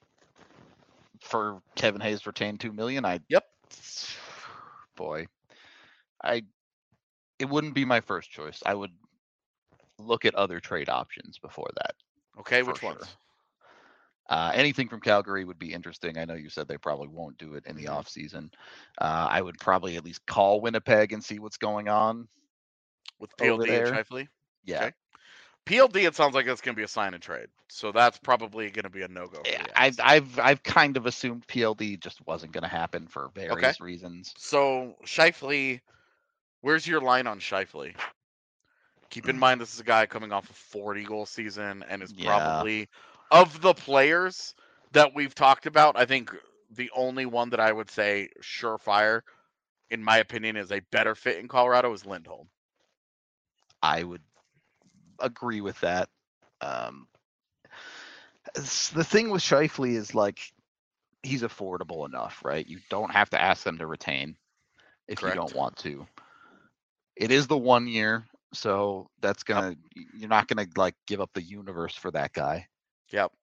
For Kevin Hayes retained two million, I Yep. boy, I it wouldn't be my first choice. I would look at other trade options before that. Okay, for which sure. ones? Uh, anything from Calgary would be interesting. I know you said they probably won't do it in the Mhm. off season. Uh, I would probably at least call Winnipeg and see what's going on With P L over D and there. Shifley? Yeah, Okay. P L D, it sounds like it's going to be a sign and trade. So that's probably going to be a no-go for Yeah, the I've Avs. I've I've kind of assumed P L D just wasn't going to happen for various reasons. So Shifley, where's your line on Shifley? Keep in mind this is a guy coming off a forty goal season and is Yeah. probably of the players that we've talked about, I think the only one that I would say surefire, in my opinion, is a better fit in Colorado is Lindholm. I would agree with that. Um, s- the thing with Shifley is like he's affordable enough, right? You don't have to ask them to retain if Correct. you don't want to. It is the one year, so that's gonna you're not gonna like give up the universe for that guy. Yep.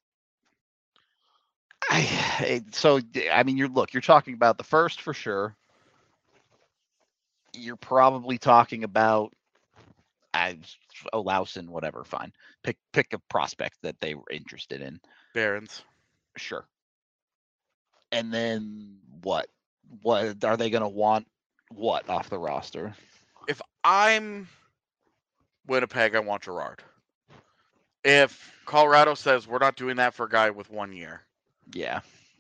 I so I mean you're look, you're talking about the first for sure. You're probably talking about I Olausen, whatever, fine. Pick pick a prospect that they were interested in. Barons. Sure. And then what? What are they gonna want what off the roster? If I'm Winnipeg, I want Gerard. If Colorado says we're not doing that for a guy with one year, Yeah.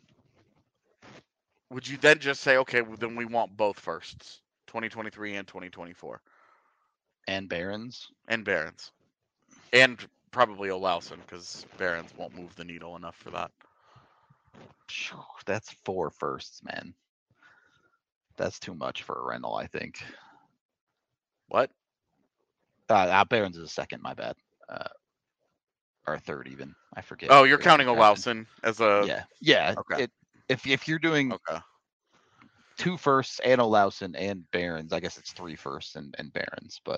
would you then just say, okay, well, then we want both firsts, twenty twenty-three and twenty twenty-four, And Barons. and Barons, and probably Olausen because Barons won't move the needle enough for that. Phew, That's four firsts, man. That's too much for a rental, I think. What? Uh, uh Barons is a second, my bad. Uh, or a third even. I forget. Oh, you're Barons counting is second. Olausen as a Yeah. Yeah. Okay. It, if if you're doing okay. two firsts and Olausen and Barons, I guess it's three firsts and, and Barons, but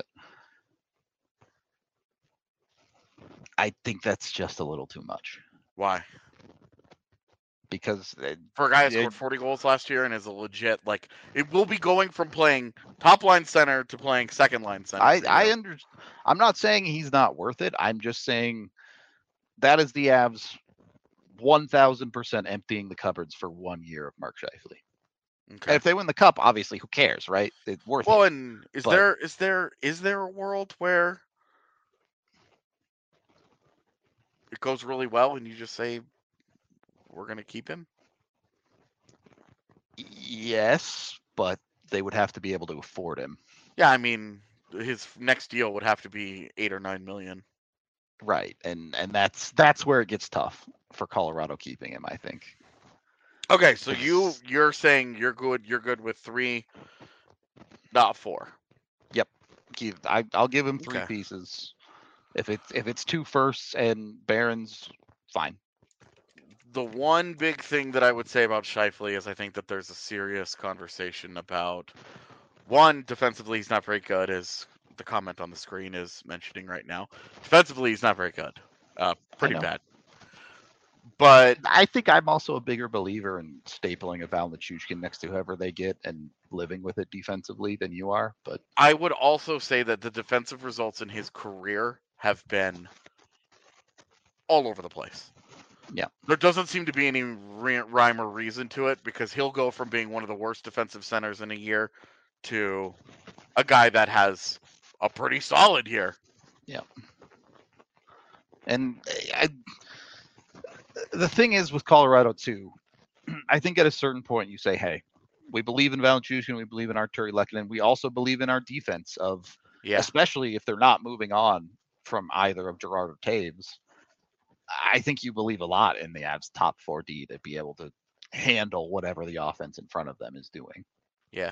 I think that's just a little too much Why? because it, For a guy who it- scored forty goals last year and is a legit like it will be going from playing top line center to playing second line center. I for I you. under I'm not saying he's not worth it. I'm just saying that is the Avs one thousand percent emptying the cupboards for one year of Mark Scheifele. And Okay. if they win the cup, obviously, who cares, right? It's worth Well, it. and is but- there is there is there a world where it goes really well and you just say we're going to keep him? Yes, but they would have to be able to afford him. Yeah, I mean his next deal would have to be eight or nine million. Right, and and that's that's where it gets tough for Colorado keeping him, I think. Okay, so you It's- you're saying you're good. You're good with three, not four. Yep, Keith, I I'll give him three Okay. pieces. If it's if it's two firsts and Barons, fine. The one big thing that I would say about Scheifele is I think that there's a serious conversation about one, defensively he's not very good, as the comment on the screen is mentioning right now. Defensively he's not very good. Uh, pretty know. bad. But I think I'm also a bigger believer in stapling a Val Nichushkin next to whoever they get and living with it defensively than you are. But I would also say that the defensive results in his career have been all over the place. Yeah. There doesn't seem to be any re- rhyme or reason to it because he'll go from being one of the worst defensive centers in a year to a guy that has a pretty solid year. Yeah. And I, the thing is with Colorado too, I think at a certain point you say, hey, we believe in Val Nichushkin, we believe in Artturi Lehkonen, we also believe in our defense of, Yeah. especially if they're not moving on from either of Girard or Taves. I think you believe a lot in the Avs top four D to be able to handle whatever the offense in front of them is doing. Yeah.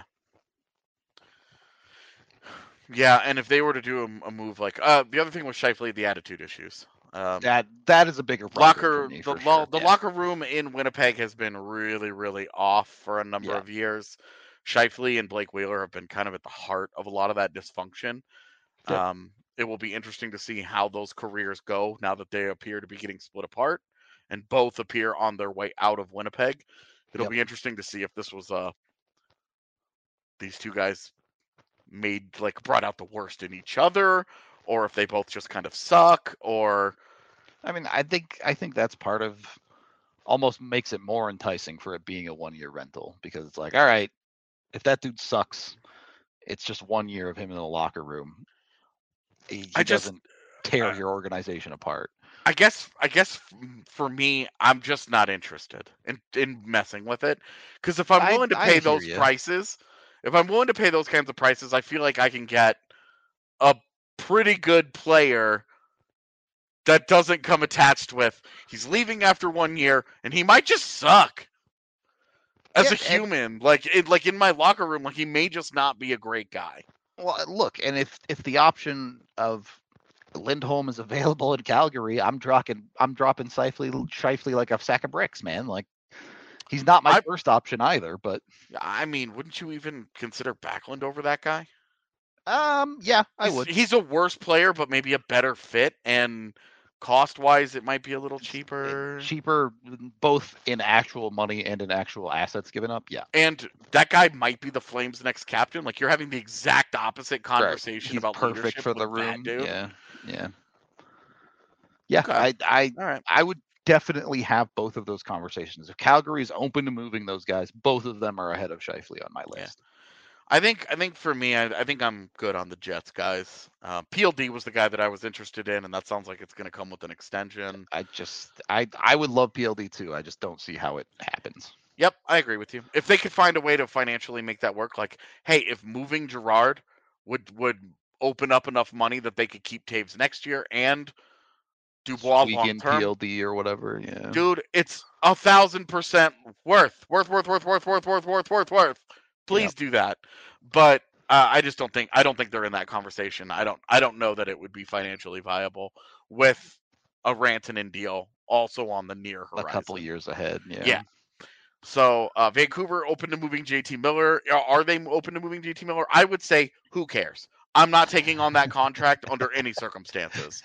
Yeah, and if they were to do a, a move like uh, the other thing was Scheifele, the attitude issues. Um, That that is a bigger problem locker for me, the for lo- sure. the Yeah. locker room in Winnipeg has been really really off for a number Yeah. of years. Scheifele and Blake Wheeler have been kind of at the heart of a lot of that dysfunction. Yep. Um, it will be interesting to see how those careers go now that they appear to be getting split apart, and both appear on their way out of Winnipeg. It'll Yep. be interesting to see if this was uh these two guys made like brought out the worst in each other, or if they both just kind of suck, or I mean, I think I think that's part of almost makes it more enticing for it being a one year rental because it's like, all right, if that dude sucks, it's just one year of him in the locker room. He, he I just doesn't tear uh, your organization apart. I guess I guess for me, I'm just not interested in in messing with it because if I'm I- willing to I pay hear those ya. prices, if I'm willing to pay those kinds of prices, I feel like I can get a pretty good player that doesn't come attached with he's leaving after one year and he might just suck as Yeah, a and- human. Like it, like in my locker room, like he may just not be a great guy. Well, look, and if if the option of Lindholm is available in Calgary, I'm dropping I'm dropping Scheifele, Scheifele like a sack of bricks, man. Like he's not my I- first option either, but I mean, wouldn't you even consider Backlund over that guy? um, yeah, I He's, would. he's a worse player, but maybe a better fit, and cost wise, it might be a little It's- cheaper. cheaper, both in actual money and in actual assets given up. Yeah, And that guy might be the Flames' next captain. Like you're having the exact opposite conversation He's about perfect leadership for the with that room. dude. Yeah, yeah, yeah. Okay. I, I, All right. I would definitely have both of those conversations. If Calgary is open to moving those guys, both of them are ahead of Scheifele on my Yeah. list. I think I think for me, I, I think I'm good on the Jets guys. Uh, P L D was the guy that I was interested in, and that sounds like it's going to come with an extension. I just, I, I would love P L D too. I just don't see how it happens. Yep, I agree with you. If they could find a way to financially make that work, like, hey, if moving Girard would would open up enough money that they could keep Taves next year and Dubois Squeak long in term, P L D or whatever. Yeah, dude, it's a thousand percent worth, worth, worth, worth, worth, worth, worth, worth, worth, worth. Please Yep. do that. But uh, I just don't think I don't think they're in that conversation. I don't I don't know that it would be financially viable with a Rantanen deal also on the near a horizon. couple years ahead. Yeah. Yeah. So uh, Vancouver open to moving J T Miller. Are they open to moving J T Miller? I would say, who cares? I'm not taking on that contract under any circumstances.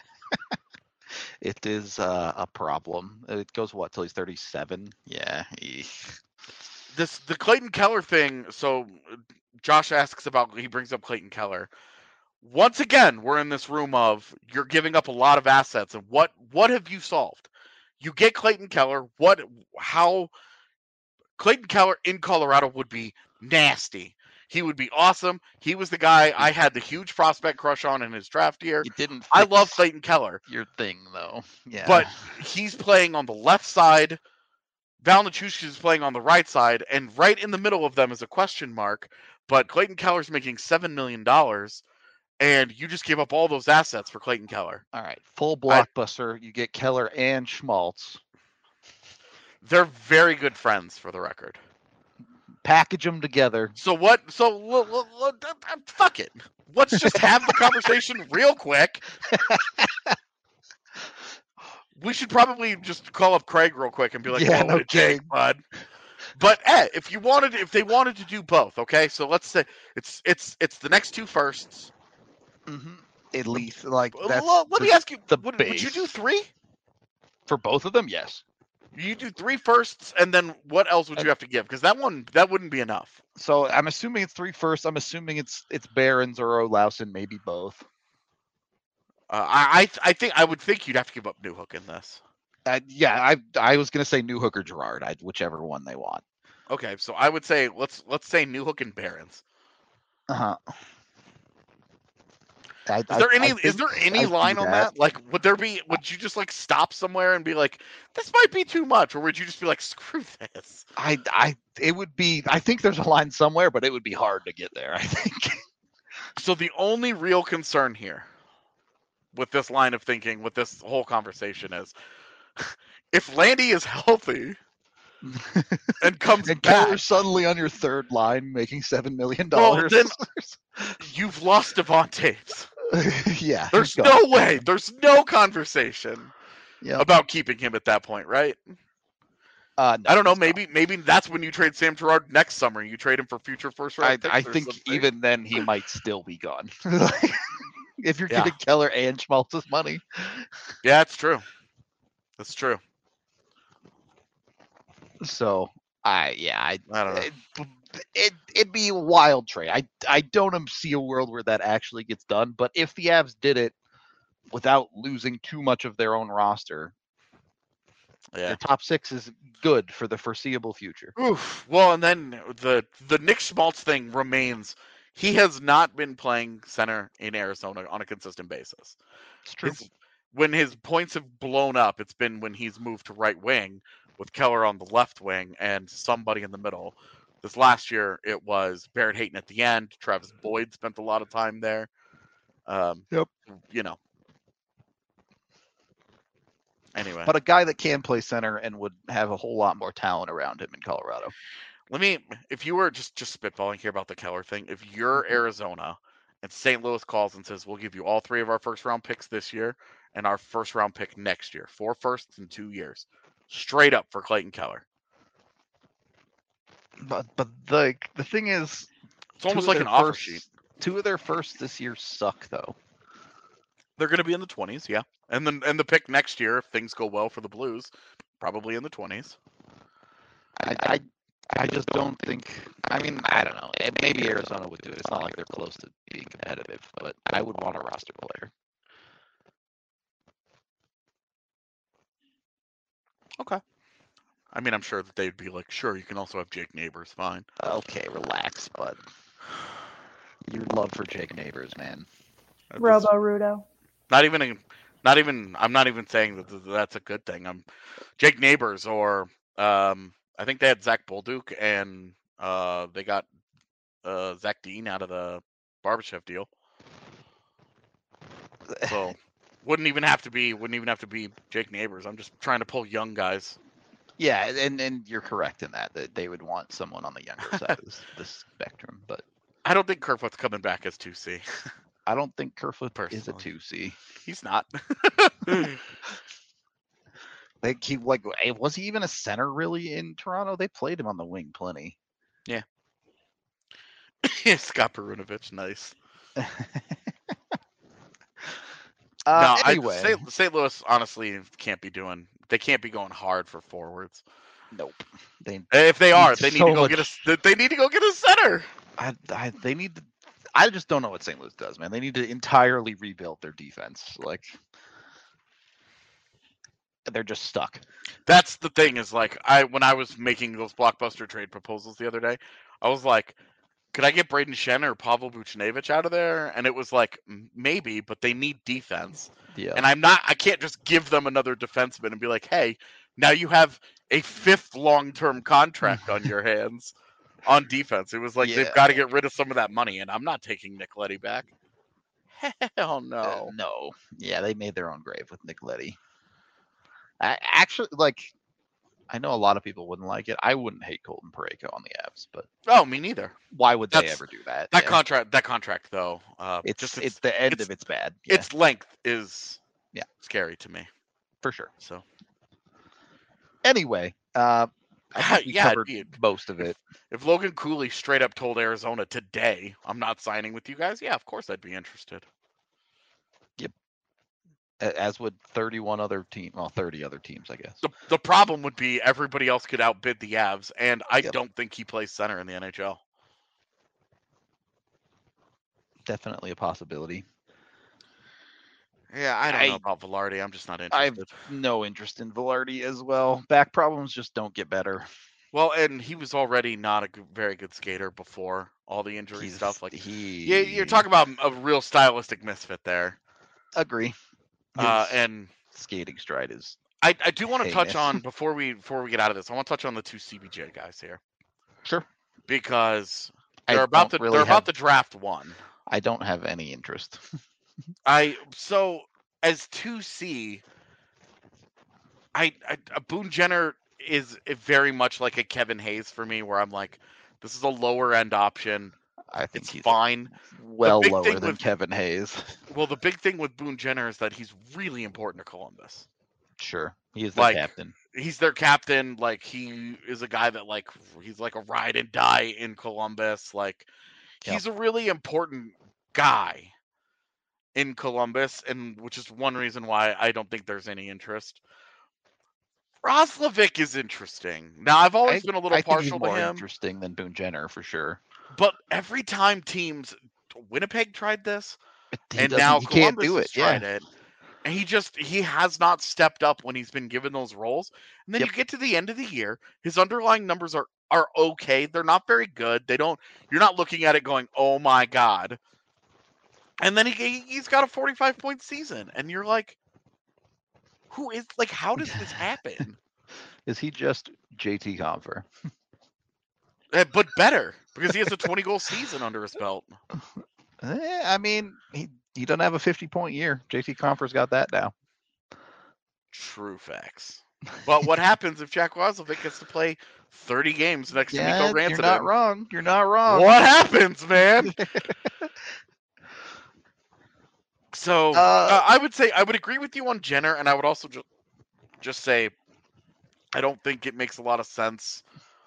It is uh, a problem. It goes what till he's thirty-seven? Yeah. eek. This the Clayton Keller thing. So Josh asks about. He brings up Clayton Keller. Once again, we're in this room of you're giving up a lot of assets, and what what have you solved? You get Clayton Keller. What how Clayton Keller in Colorado would be nasty. He would be awesome. He was the guy I had the huge prospect crush on in his draft year. You didn't. I love fix Clayton Keller, your thing though. Yeah. but he's playing on the left side. Val Nichushkin is playing on the right side, and right in the middle of them is a question mark. But Clayton Keller's making seven million dollars, and you just gave up all those assets for Clayton Keller. All right, full blockbuster. You get Keller and Schmaltz. They're very good friends, for the record. Package them together. So what? So l- l- l- fuck it. Let's just have the conversation real quick. We should probably just call up Craig real quick and be like, Yeah, "What no would it take, bud?" But eh, if you wanted, if they wanted to do both, okay. So let's say it's it's it's the next two firsts. Mm-hmm. At least, like that's. Well, let the, me ask you: the would, base. would you do three? For both of them? Yes. You do three firsts, and then what else would you have to give? Because that one, that wouldn't be enough. So I'm assuming it's three firsts. I'm assuming it's it's Barons or Olausen, maybe both. Uh, I I think I would think you'd have to give up Newhook in this. Uh, yeah, I I was gonna say Newhook or Gerard, I'd, whichever one they want. Okay, so I would say let's let's say Newhook and Barons. Uh huh. Is there any is there any I line on that. that? Like, would there be? Would you just like stop somewhere and be like, "This might be too much," or would you just be like, "Screw this"? I I it would be. I think there's a line somewhere, but it would be hard to get there. I think. So the only real concern here, with this line of thinking, with this whole conversation, is if Landy is healthy and comes and back, Keller's suddenly on your third line, making seven million well, dollars. then you've lost Devontae. Yeah. There's no way. There's no conversation yep. about keeping him at that point, right? Uh, no, I don't know. Maybe not. maybe that's when you trade Sam Girard next summer. You trade him for future first round. I, I think something. even then he might still be gone. If you're Yeah. giving Keller and Schmaltz's money. Yeah, that's true. That's true. So I yeah I I don't know. It, it it'd be a wild trade. I I don't see a world where that actually gets done. But if the Avs did it without losing too much of their own roster, Yeah. their top six is good for the foreseeable future. Oof. Well, and then the the Nick Schmaltz thing remains. He has not been playing center in Arizona on a consistent basis. It's true. His, when his points have blown up, it's been when he's moved to right wing with Keller on the left wing and somebody in the middle. This last year, it was Barrett Hayton at the end. Travis Boyd spent a lot of time there. Um, Yep. You know. Anyway. But a guy that can play center and would have a whole lot more talent around him in Colorado. Let me, if you were just just spitballing here about the Keller thing, if you're Arizona and Saint Louis calls and says, we'll give you all three of our first round picks this year and our first round pick next year, four firsts in two years, straight up for Clayton Keller. But but the the thing is, it's almost two of like an their offer first- sheet. Two of their firsts this year suck though. They're going to be in the twenties, yeah, and then and the pick next year, if things go well for the Blues, probably in the twenties. I, I I just don't think. I mean, I don't know. Eh, Maybe Arizona would do it. It's not like they're close to being competitive, but I would want a roster player. Okay. I mean, I'm sure that they'd be like, sure, you can also have Jake Neighbors, fine. Okay, relax, bud. Your love for Jake Neighbors, man. That's- Robo Rudo. Not even, a, not even. I'm not even saying that th- that's a good thing. I'm Jake Neighbors, or um, I think they had Zach Bolduc, and uh, they got uh, Zach Dean out of the Barbashev deal. So wouldn't even have to be. Wouldn't even have to be Jake Neighbors. I'm just trying to pull young guys. Yeah, and, and you're correct in that that they would want someone on the younger side of this, this spectrum, but I don't think Kerfoot's coming back as two C. I don't think Kerfoot is a Personally. two C. He's not. Like he like eh, was he even a center really in Toronto? They played him on the wing plenty. Scott Perunovich, nice. uh, no, anyway, I, Saint Saint Louis honestly can't be doing. They can't be going hard for forwards. nope. They If they are, Need they need so to go much- get a. They need to go get a center. I, I they need to. I just don't know what Saint Louis does, man. They need to entirely rebuild their defense. Like they're just stuck. That's the thing. Is like I when I was making those blockbuster trade proposals the other day, I was like, could I get Braden Shen or Pavel Vucinovic out of there? And it was like "M- maybe, but they need defense. Yeah. And I'm not. I can't just give them another defenseman and be like, hey, now you have a fifth long-term contract on your hands on defense. It was like Yeah. they've got to get rid of some of that money, and I'm not taking Nick Leddy back. Hell no. Uh, no. Yeah, they made their own grave with Nick Leddy. I, actually, like, I know a lot of people wouldn't like it. I wouldn't hate Colton Parayko on the Avs, but Oh, me neither. why would they That's- ever do that? That Yeah. contract, that contract though, uh, It's just it's, its, the end it's- of it's bad. Yeah, its length is Yeah. scary to me. for sure. So Anyway, uh, I think we Yeah, covered dude. most of it. if Logan Cooley straight up told Arizona today, "I'm not signing with you guys," yeah, of course I'd be interested. a- As would thirty-one other team, well, thirty other teams, I guess. The the problem would be everybody else could outbid the Avs, and I Yep. don't think he plays center in the N H L. Definitely a possibility. Yeah, I don't I- know about Velarde. I'm just not I've- interested. No interest in Velarde as well. Back problems just don't get better. Well, and he was already not a good, very good skater before all the injury He's, stuff. Like, he, yeah, you're talking about a real stylistic misfit there. Agree. His Uh, and skating stride is I, I do want to touch heinous. on before we before we get out of this. I want to touch on the two C B J guys here sure. because I they're about to don't really they're have, about to draft one. I don't have any interest. I so as two C, I, I uh, Boone Jenner is very much like a Kevin Hayes for me, where I'm like, this is a lower end option. I think It's he's fine. well big lower thing than with- Kevin Hayes. Well, the big thing with Boone Jenner is that he's really important to Columbus. Sure. He is the Like, captain. He's their captain. Like, he is a guy that like he's like a ride and die in Columbus. Like, Yep. he's a really important guy in Columbus, and which is one reason why I don't think there's any interest. Roslovic is interesting. Now, I've always I- been a little I think he's partial to more him, interesting than Boone Jenner for sure. but every time teams, Winnipeg tried this, He and doesn't- now he can't Columbus do has it. Yeah. tried it, and he just he has not stepped up when he's been given those roles. And then Yep. you get to the end of the year, his underlying numbers are are okay. They're not very good. They don't. You're not looking at it going, "Oh my god." And then he he's got a forty-five point season, and you're like, "Who is like? How does this happen?" Is he just J T Compher? Eh, but better because he has a twenty goal season under his belt. Eh, I mean, he he doesn't have a fifty point year. J T Compher's got that now. True facts. But what happens if Jack Roslovic gets to play thirty games next to Yeah, Nico Rantanen? you're not wrong. You're not wrong. What happens, man? So Uh, uh, I would say I would agree with you on Jenner, and I would also just just say I don't think it makes a lot of sense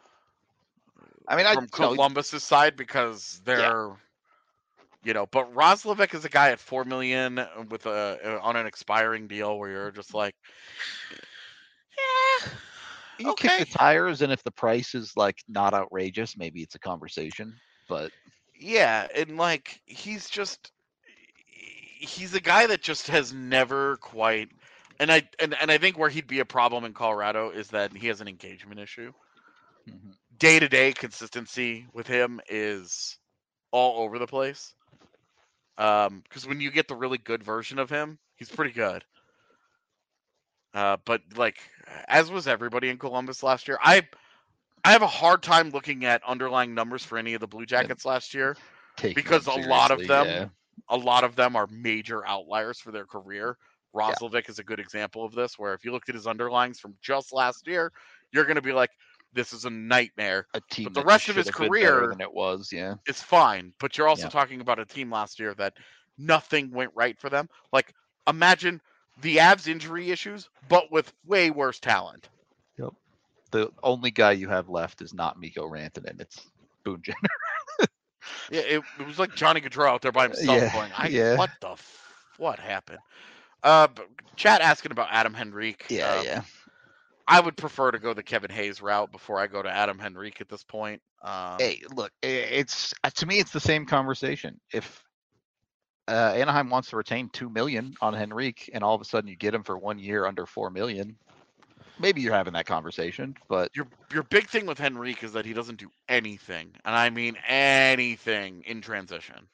I mean, I from you know, Columbus's side because they're, you know, but Roslovic is a guy at four million with a on an expiring deal where you're just like, yeah, you kick okay. the tires, and if the price is like not outrageous, maybe it's a conversation. But yeah, and like he's just he's a guy that just has never quite, and I and, and I think where he'd be a problem in Colorado is that he has an engagement issue. mhm. Day to day consistency with him is all over the place. Um, because when you get the really good version of him, he's pretty good. Uh, but like as was everybody in Columbus last year, I I have a hard time looking at underlying numbers for any of the Blue Jackets last year. Take Because them a lot of seriously, them- yeah. A lot of them are major outliers for their career. Roslovic is a good example of this, where if you looked at his underlings from just last year, you're going to be like, this is a nightmare. a team. but the that rest just of his should have been better career- than it was, yeah. It's fine, but you're also Yeah. talking about a team last year that nothing went right for them. Like, imagine the Avs injury issues, but with way worse talent. The only guy you have left is not Mikko Rantanen. It's Boone Jenner. Yeah, it, it was like Johnny Gaudreau out there by himself Yeah, going, I, yeah. what the, f- what happened? Uh, but chat asking about Adam Henrique. Yeah, um, yeah. I would prefer to go the Kevin Hayes route before I go to Adam Henrique at this point. Um, Hey, look, i- it's uh, to me, it's the same conversation. If uh, Anaheim wants to retain two million on Henrique, and all of a sudden you get him for one year under four million, maybe you're having that conversation. But Your your big thing with Henrique is that he doesn't do anything, and I mean anything in transition.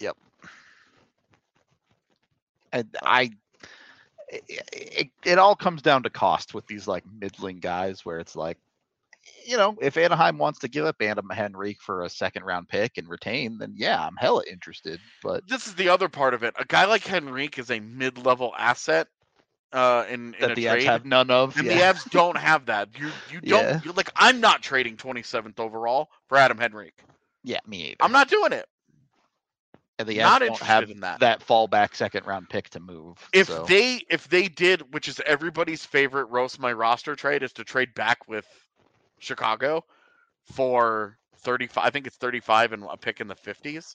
and I, it, it, it all comes down to cost with these like middling guys, where it's like, you know, if Anaheim wants to give up Adam Henrique for a second round pick and retain, then yeah, I'm hella interested. But This is the other part of it. A guy like Henrique is a mid-level asset uh, in in that a the trade, Avs have none of. and yeah. the Avs don't have that. You you don't Yeah. you're like I'm not trading twenty-seventh overall for Adam Henrique. Yeah, me either. I'm not doing it. And the not Avs don't have interested in that. fallback second round pick to move. If so. they if they did, which is everybody's favorite roast my roster trade, is to trade back with Chicago for thirty-five. I think it's thirty-five and a pick in the fifties.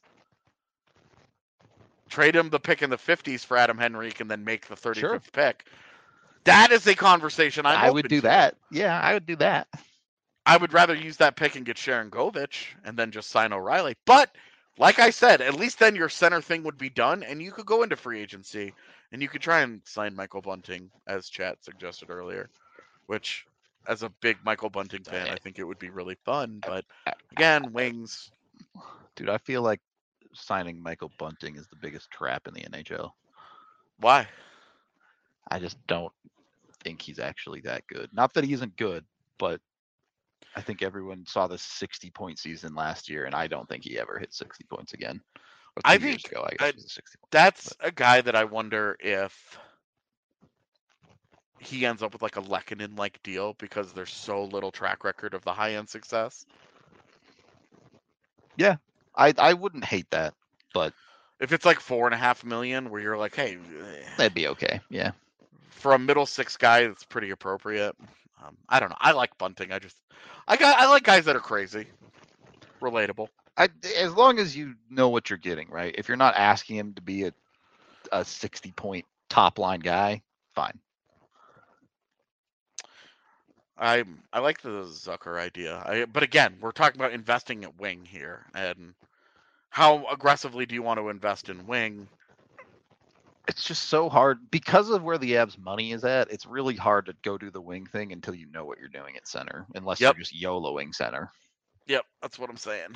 Trade him the pick in the fifties for Adam Henrique and then make the thirty-fifth Sure. pick. That is a conversation I'm I would open do to. that. Yeah, I would do that. I would rather use that pick and get Sharon Govich and then just sign O'Reilly. But like I said, at least then your center thing would be done and you could go into free agency and you could try and sign Michael Bunting, as Chat suggested earlier, which as a big Michael Bunting fan, I think it would be really fun. But again, wings. Dude, I feel like signing Michael Bunting is the biggest trap in the N H L. Why? I just don't think he's actually that good. Not that he isn't good, but I think everyone saw the sixty point season last year, and I don't think he ever hit sixty points again. Or I two years think ago, I guess I- it was a sixty points. That's but- a guy that I wonder if he ends up with like a Lehkonen-like deal because there's so little track record of the high-end success. I I wouldn't hate that, but If it's like four and a half million, where you're like, hey, that'd be okay. Yeah. for a middle six guy, it's pretty appropriate. Um, I don't know. I like Bunting. I just, I got, I like guys that are crazy, relatable. I, as long as you know what you're getting, right? If you're not asking him to be a a sixty point top line guy, fine. I I like the Zucker idea. I, but again, we're talking about investing at wing here, and how aggressively do you want to invest in wing? It's just so hard because of where the Avs money is at. It's really hard to go do the wing thing until you know what you're doing at center, unless Yep. you're just YOLOing center. Yep, that's what I'm saying.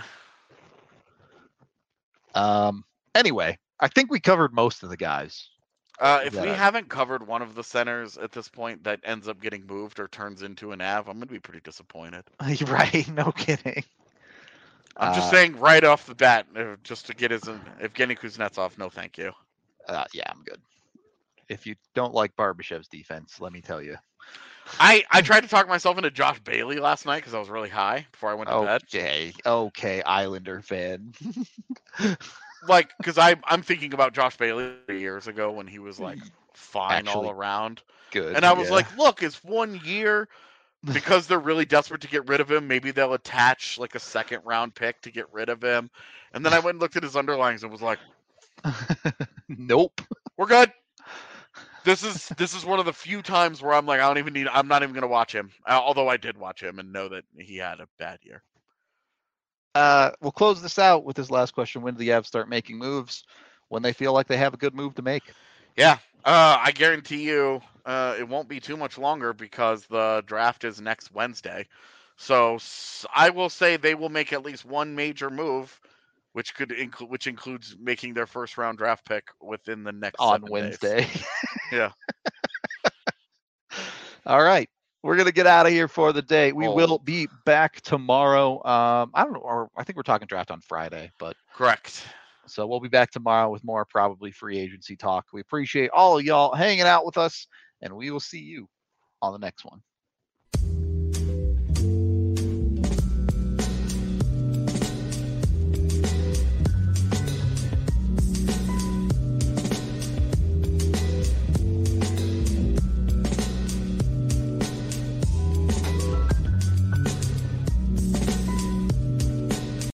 Um. Anyway, I think we covered most of the guys. Uh, if we Yeah. haven't covered one of the centers at this point that ends up getting moved or turns into an Av, I'm gonna be pretty disappointed. Right? No kidding. I'm just Uh, saying right off the bat, uh, just to get his Evgeny Kuznetsov, no thank you. Uh, yeah, I'm good. If you don't like Barbashev's defense, let me tell you. I, I tried to talk myself into Josh Bailey last night because I was really high before I went to bed. Okay, okay, Islander fan. Like, because I'm I'm thinking about Josh Bailey years ago when he was like fine all Actually, around, Good. and I was yeah. like, look, it's one year. Because they're really desperate to get rid of him, maybe they'll attach like a second round pick to get rid of him. And then I went and looked at his underlines and was like, nope. we're good. This is this is one of the few times where I'm like, I don't even need. I'm not even gonna watch him. Uh, although I did watch him and know that he had a bad year. Uh, we'll close this out with this last question. When do the Avs start making moves? When they feel like they have a good move to make. Yeah, uh, I guarantee you, uh, it won't be too much longer because the draft is next Wednesday. So s- I will say they will make at least one major move, which could include which includes making their first round draft pick within the next On seven days. Wednesday. Yeah. All right. We're gonna get out of here for the day. We Oh. will be back tomorrow. Um, I don't know, or I think we're talking draft on Friday, but Correct. so we'll be back tomorrow with more probably free agency talk. We appreciate all of y'all hanging out with us, and we will see you on the next one.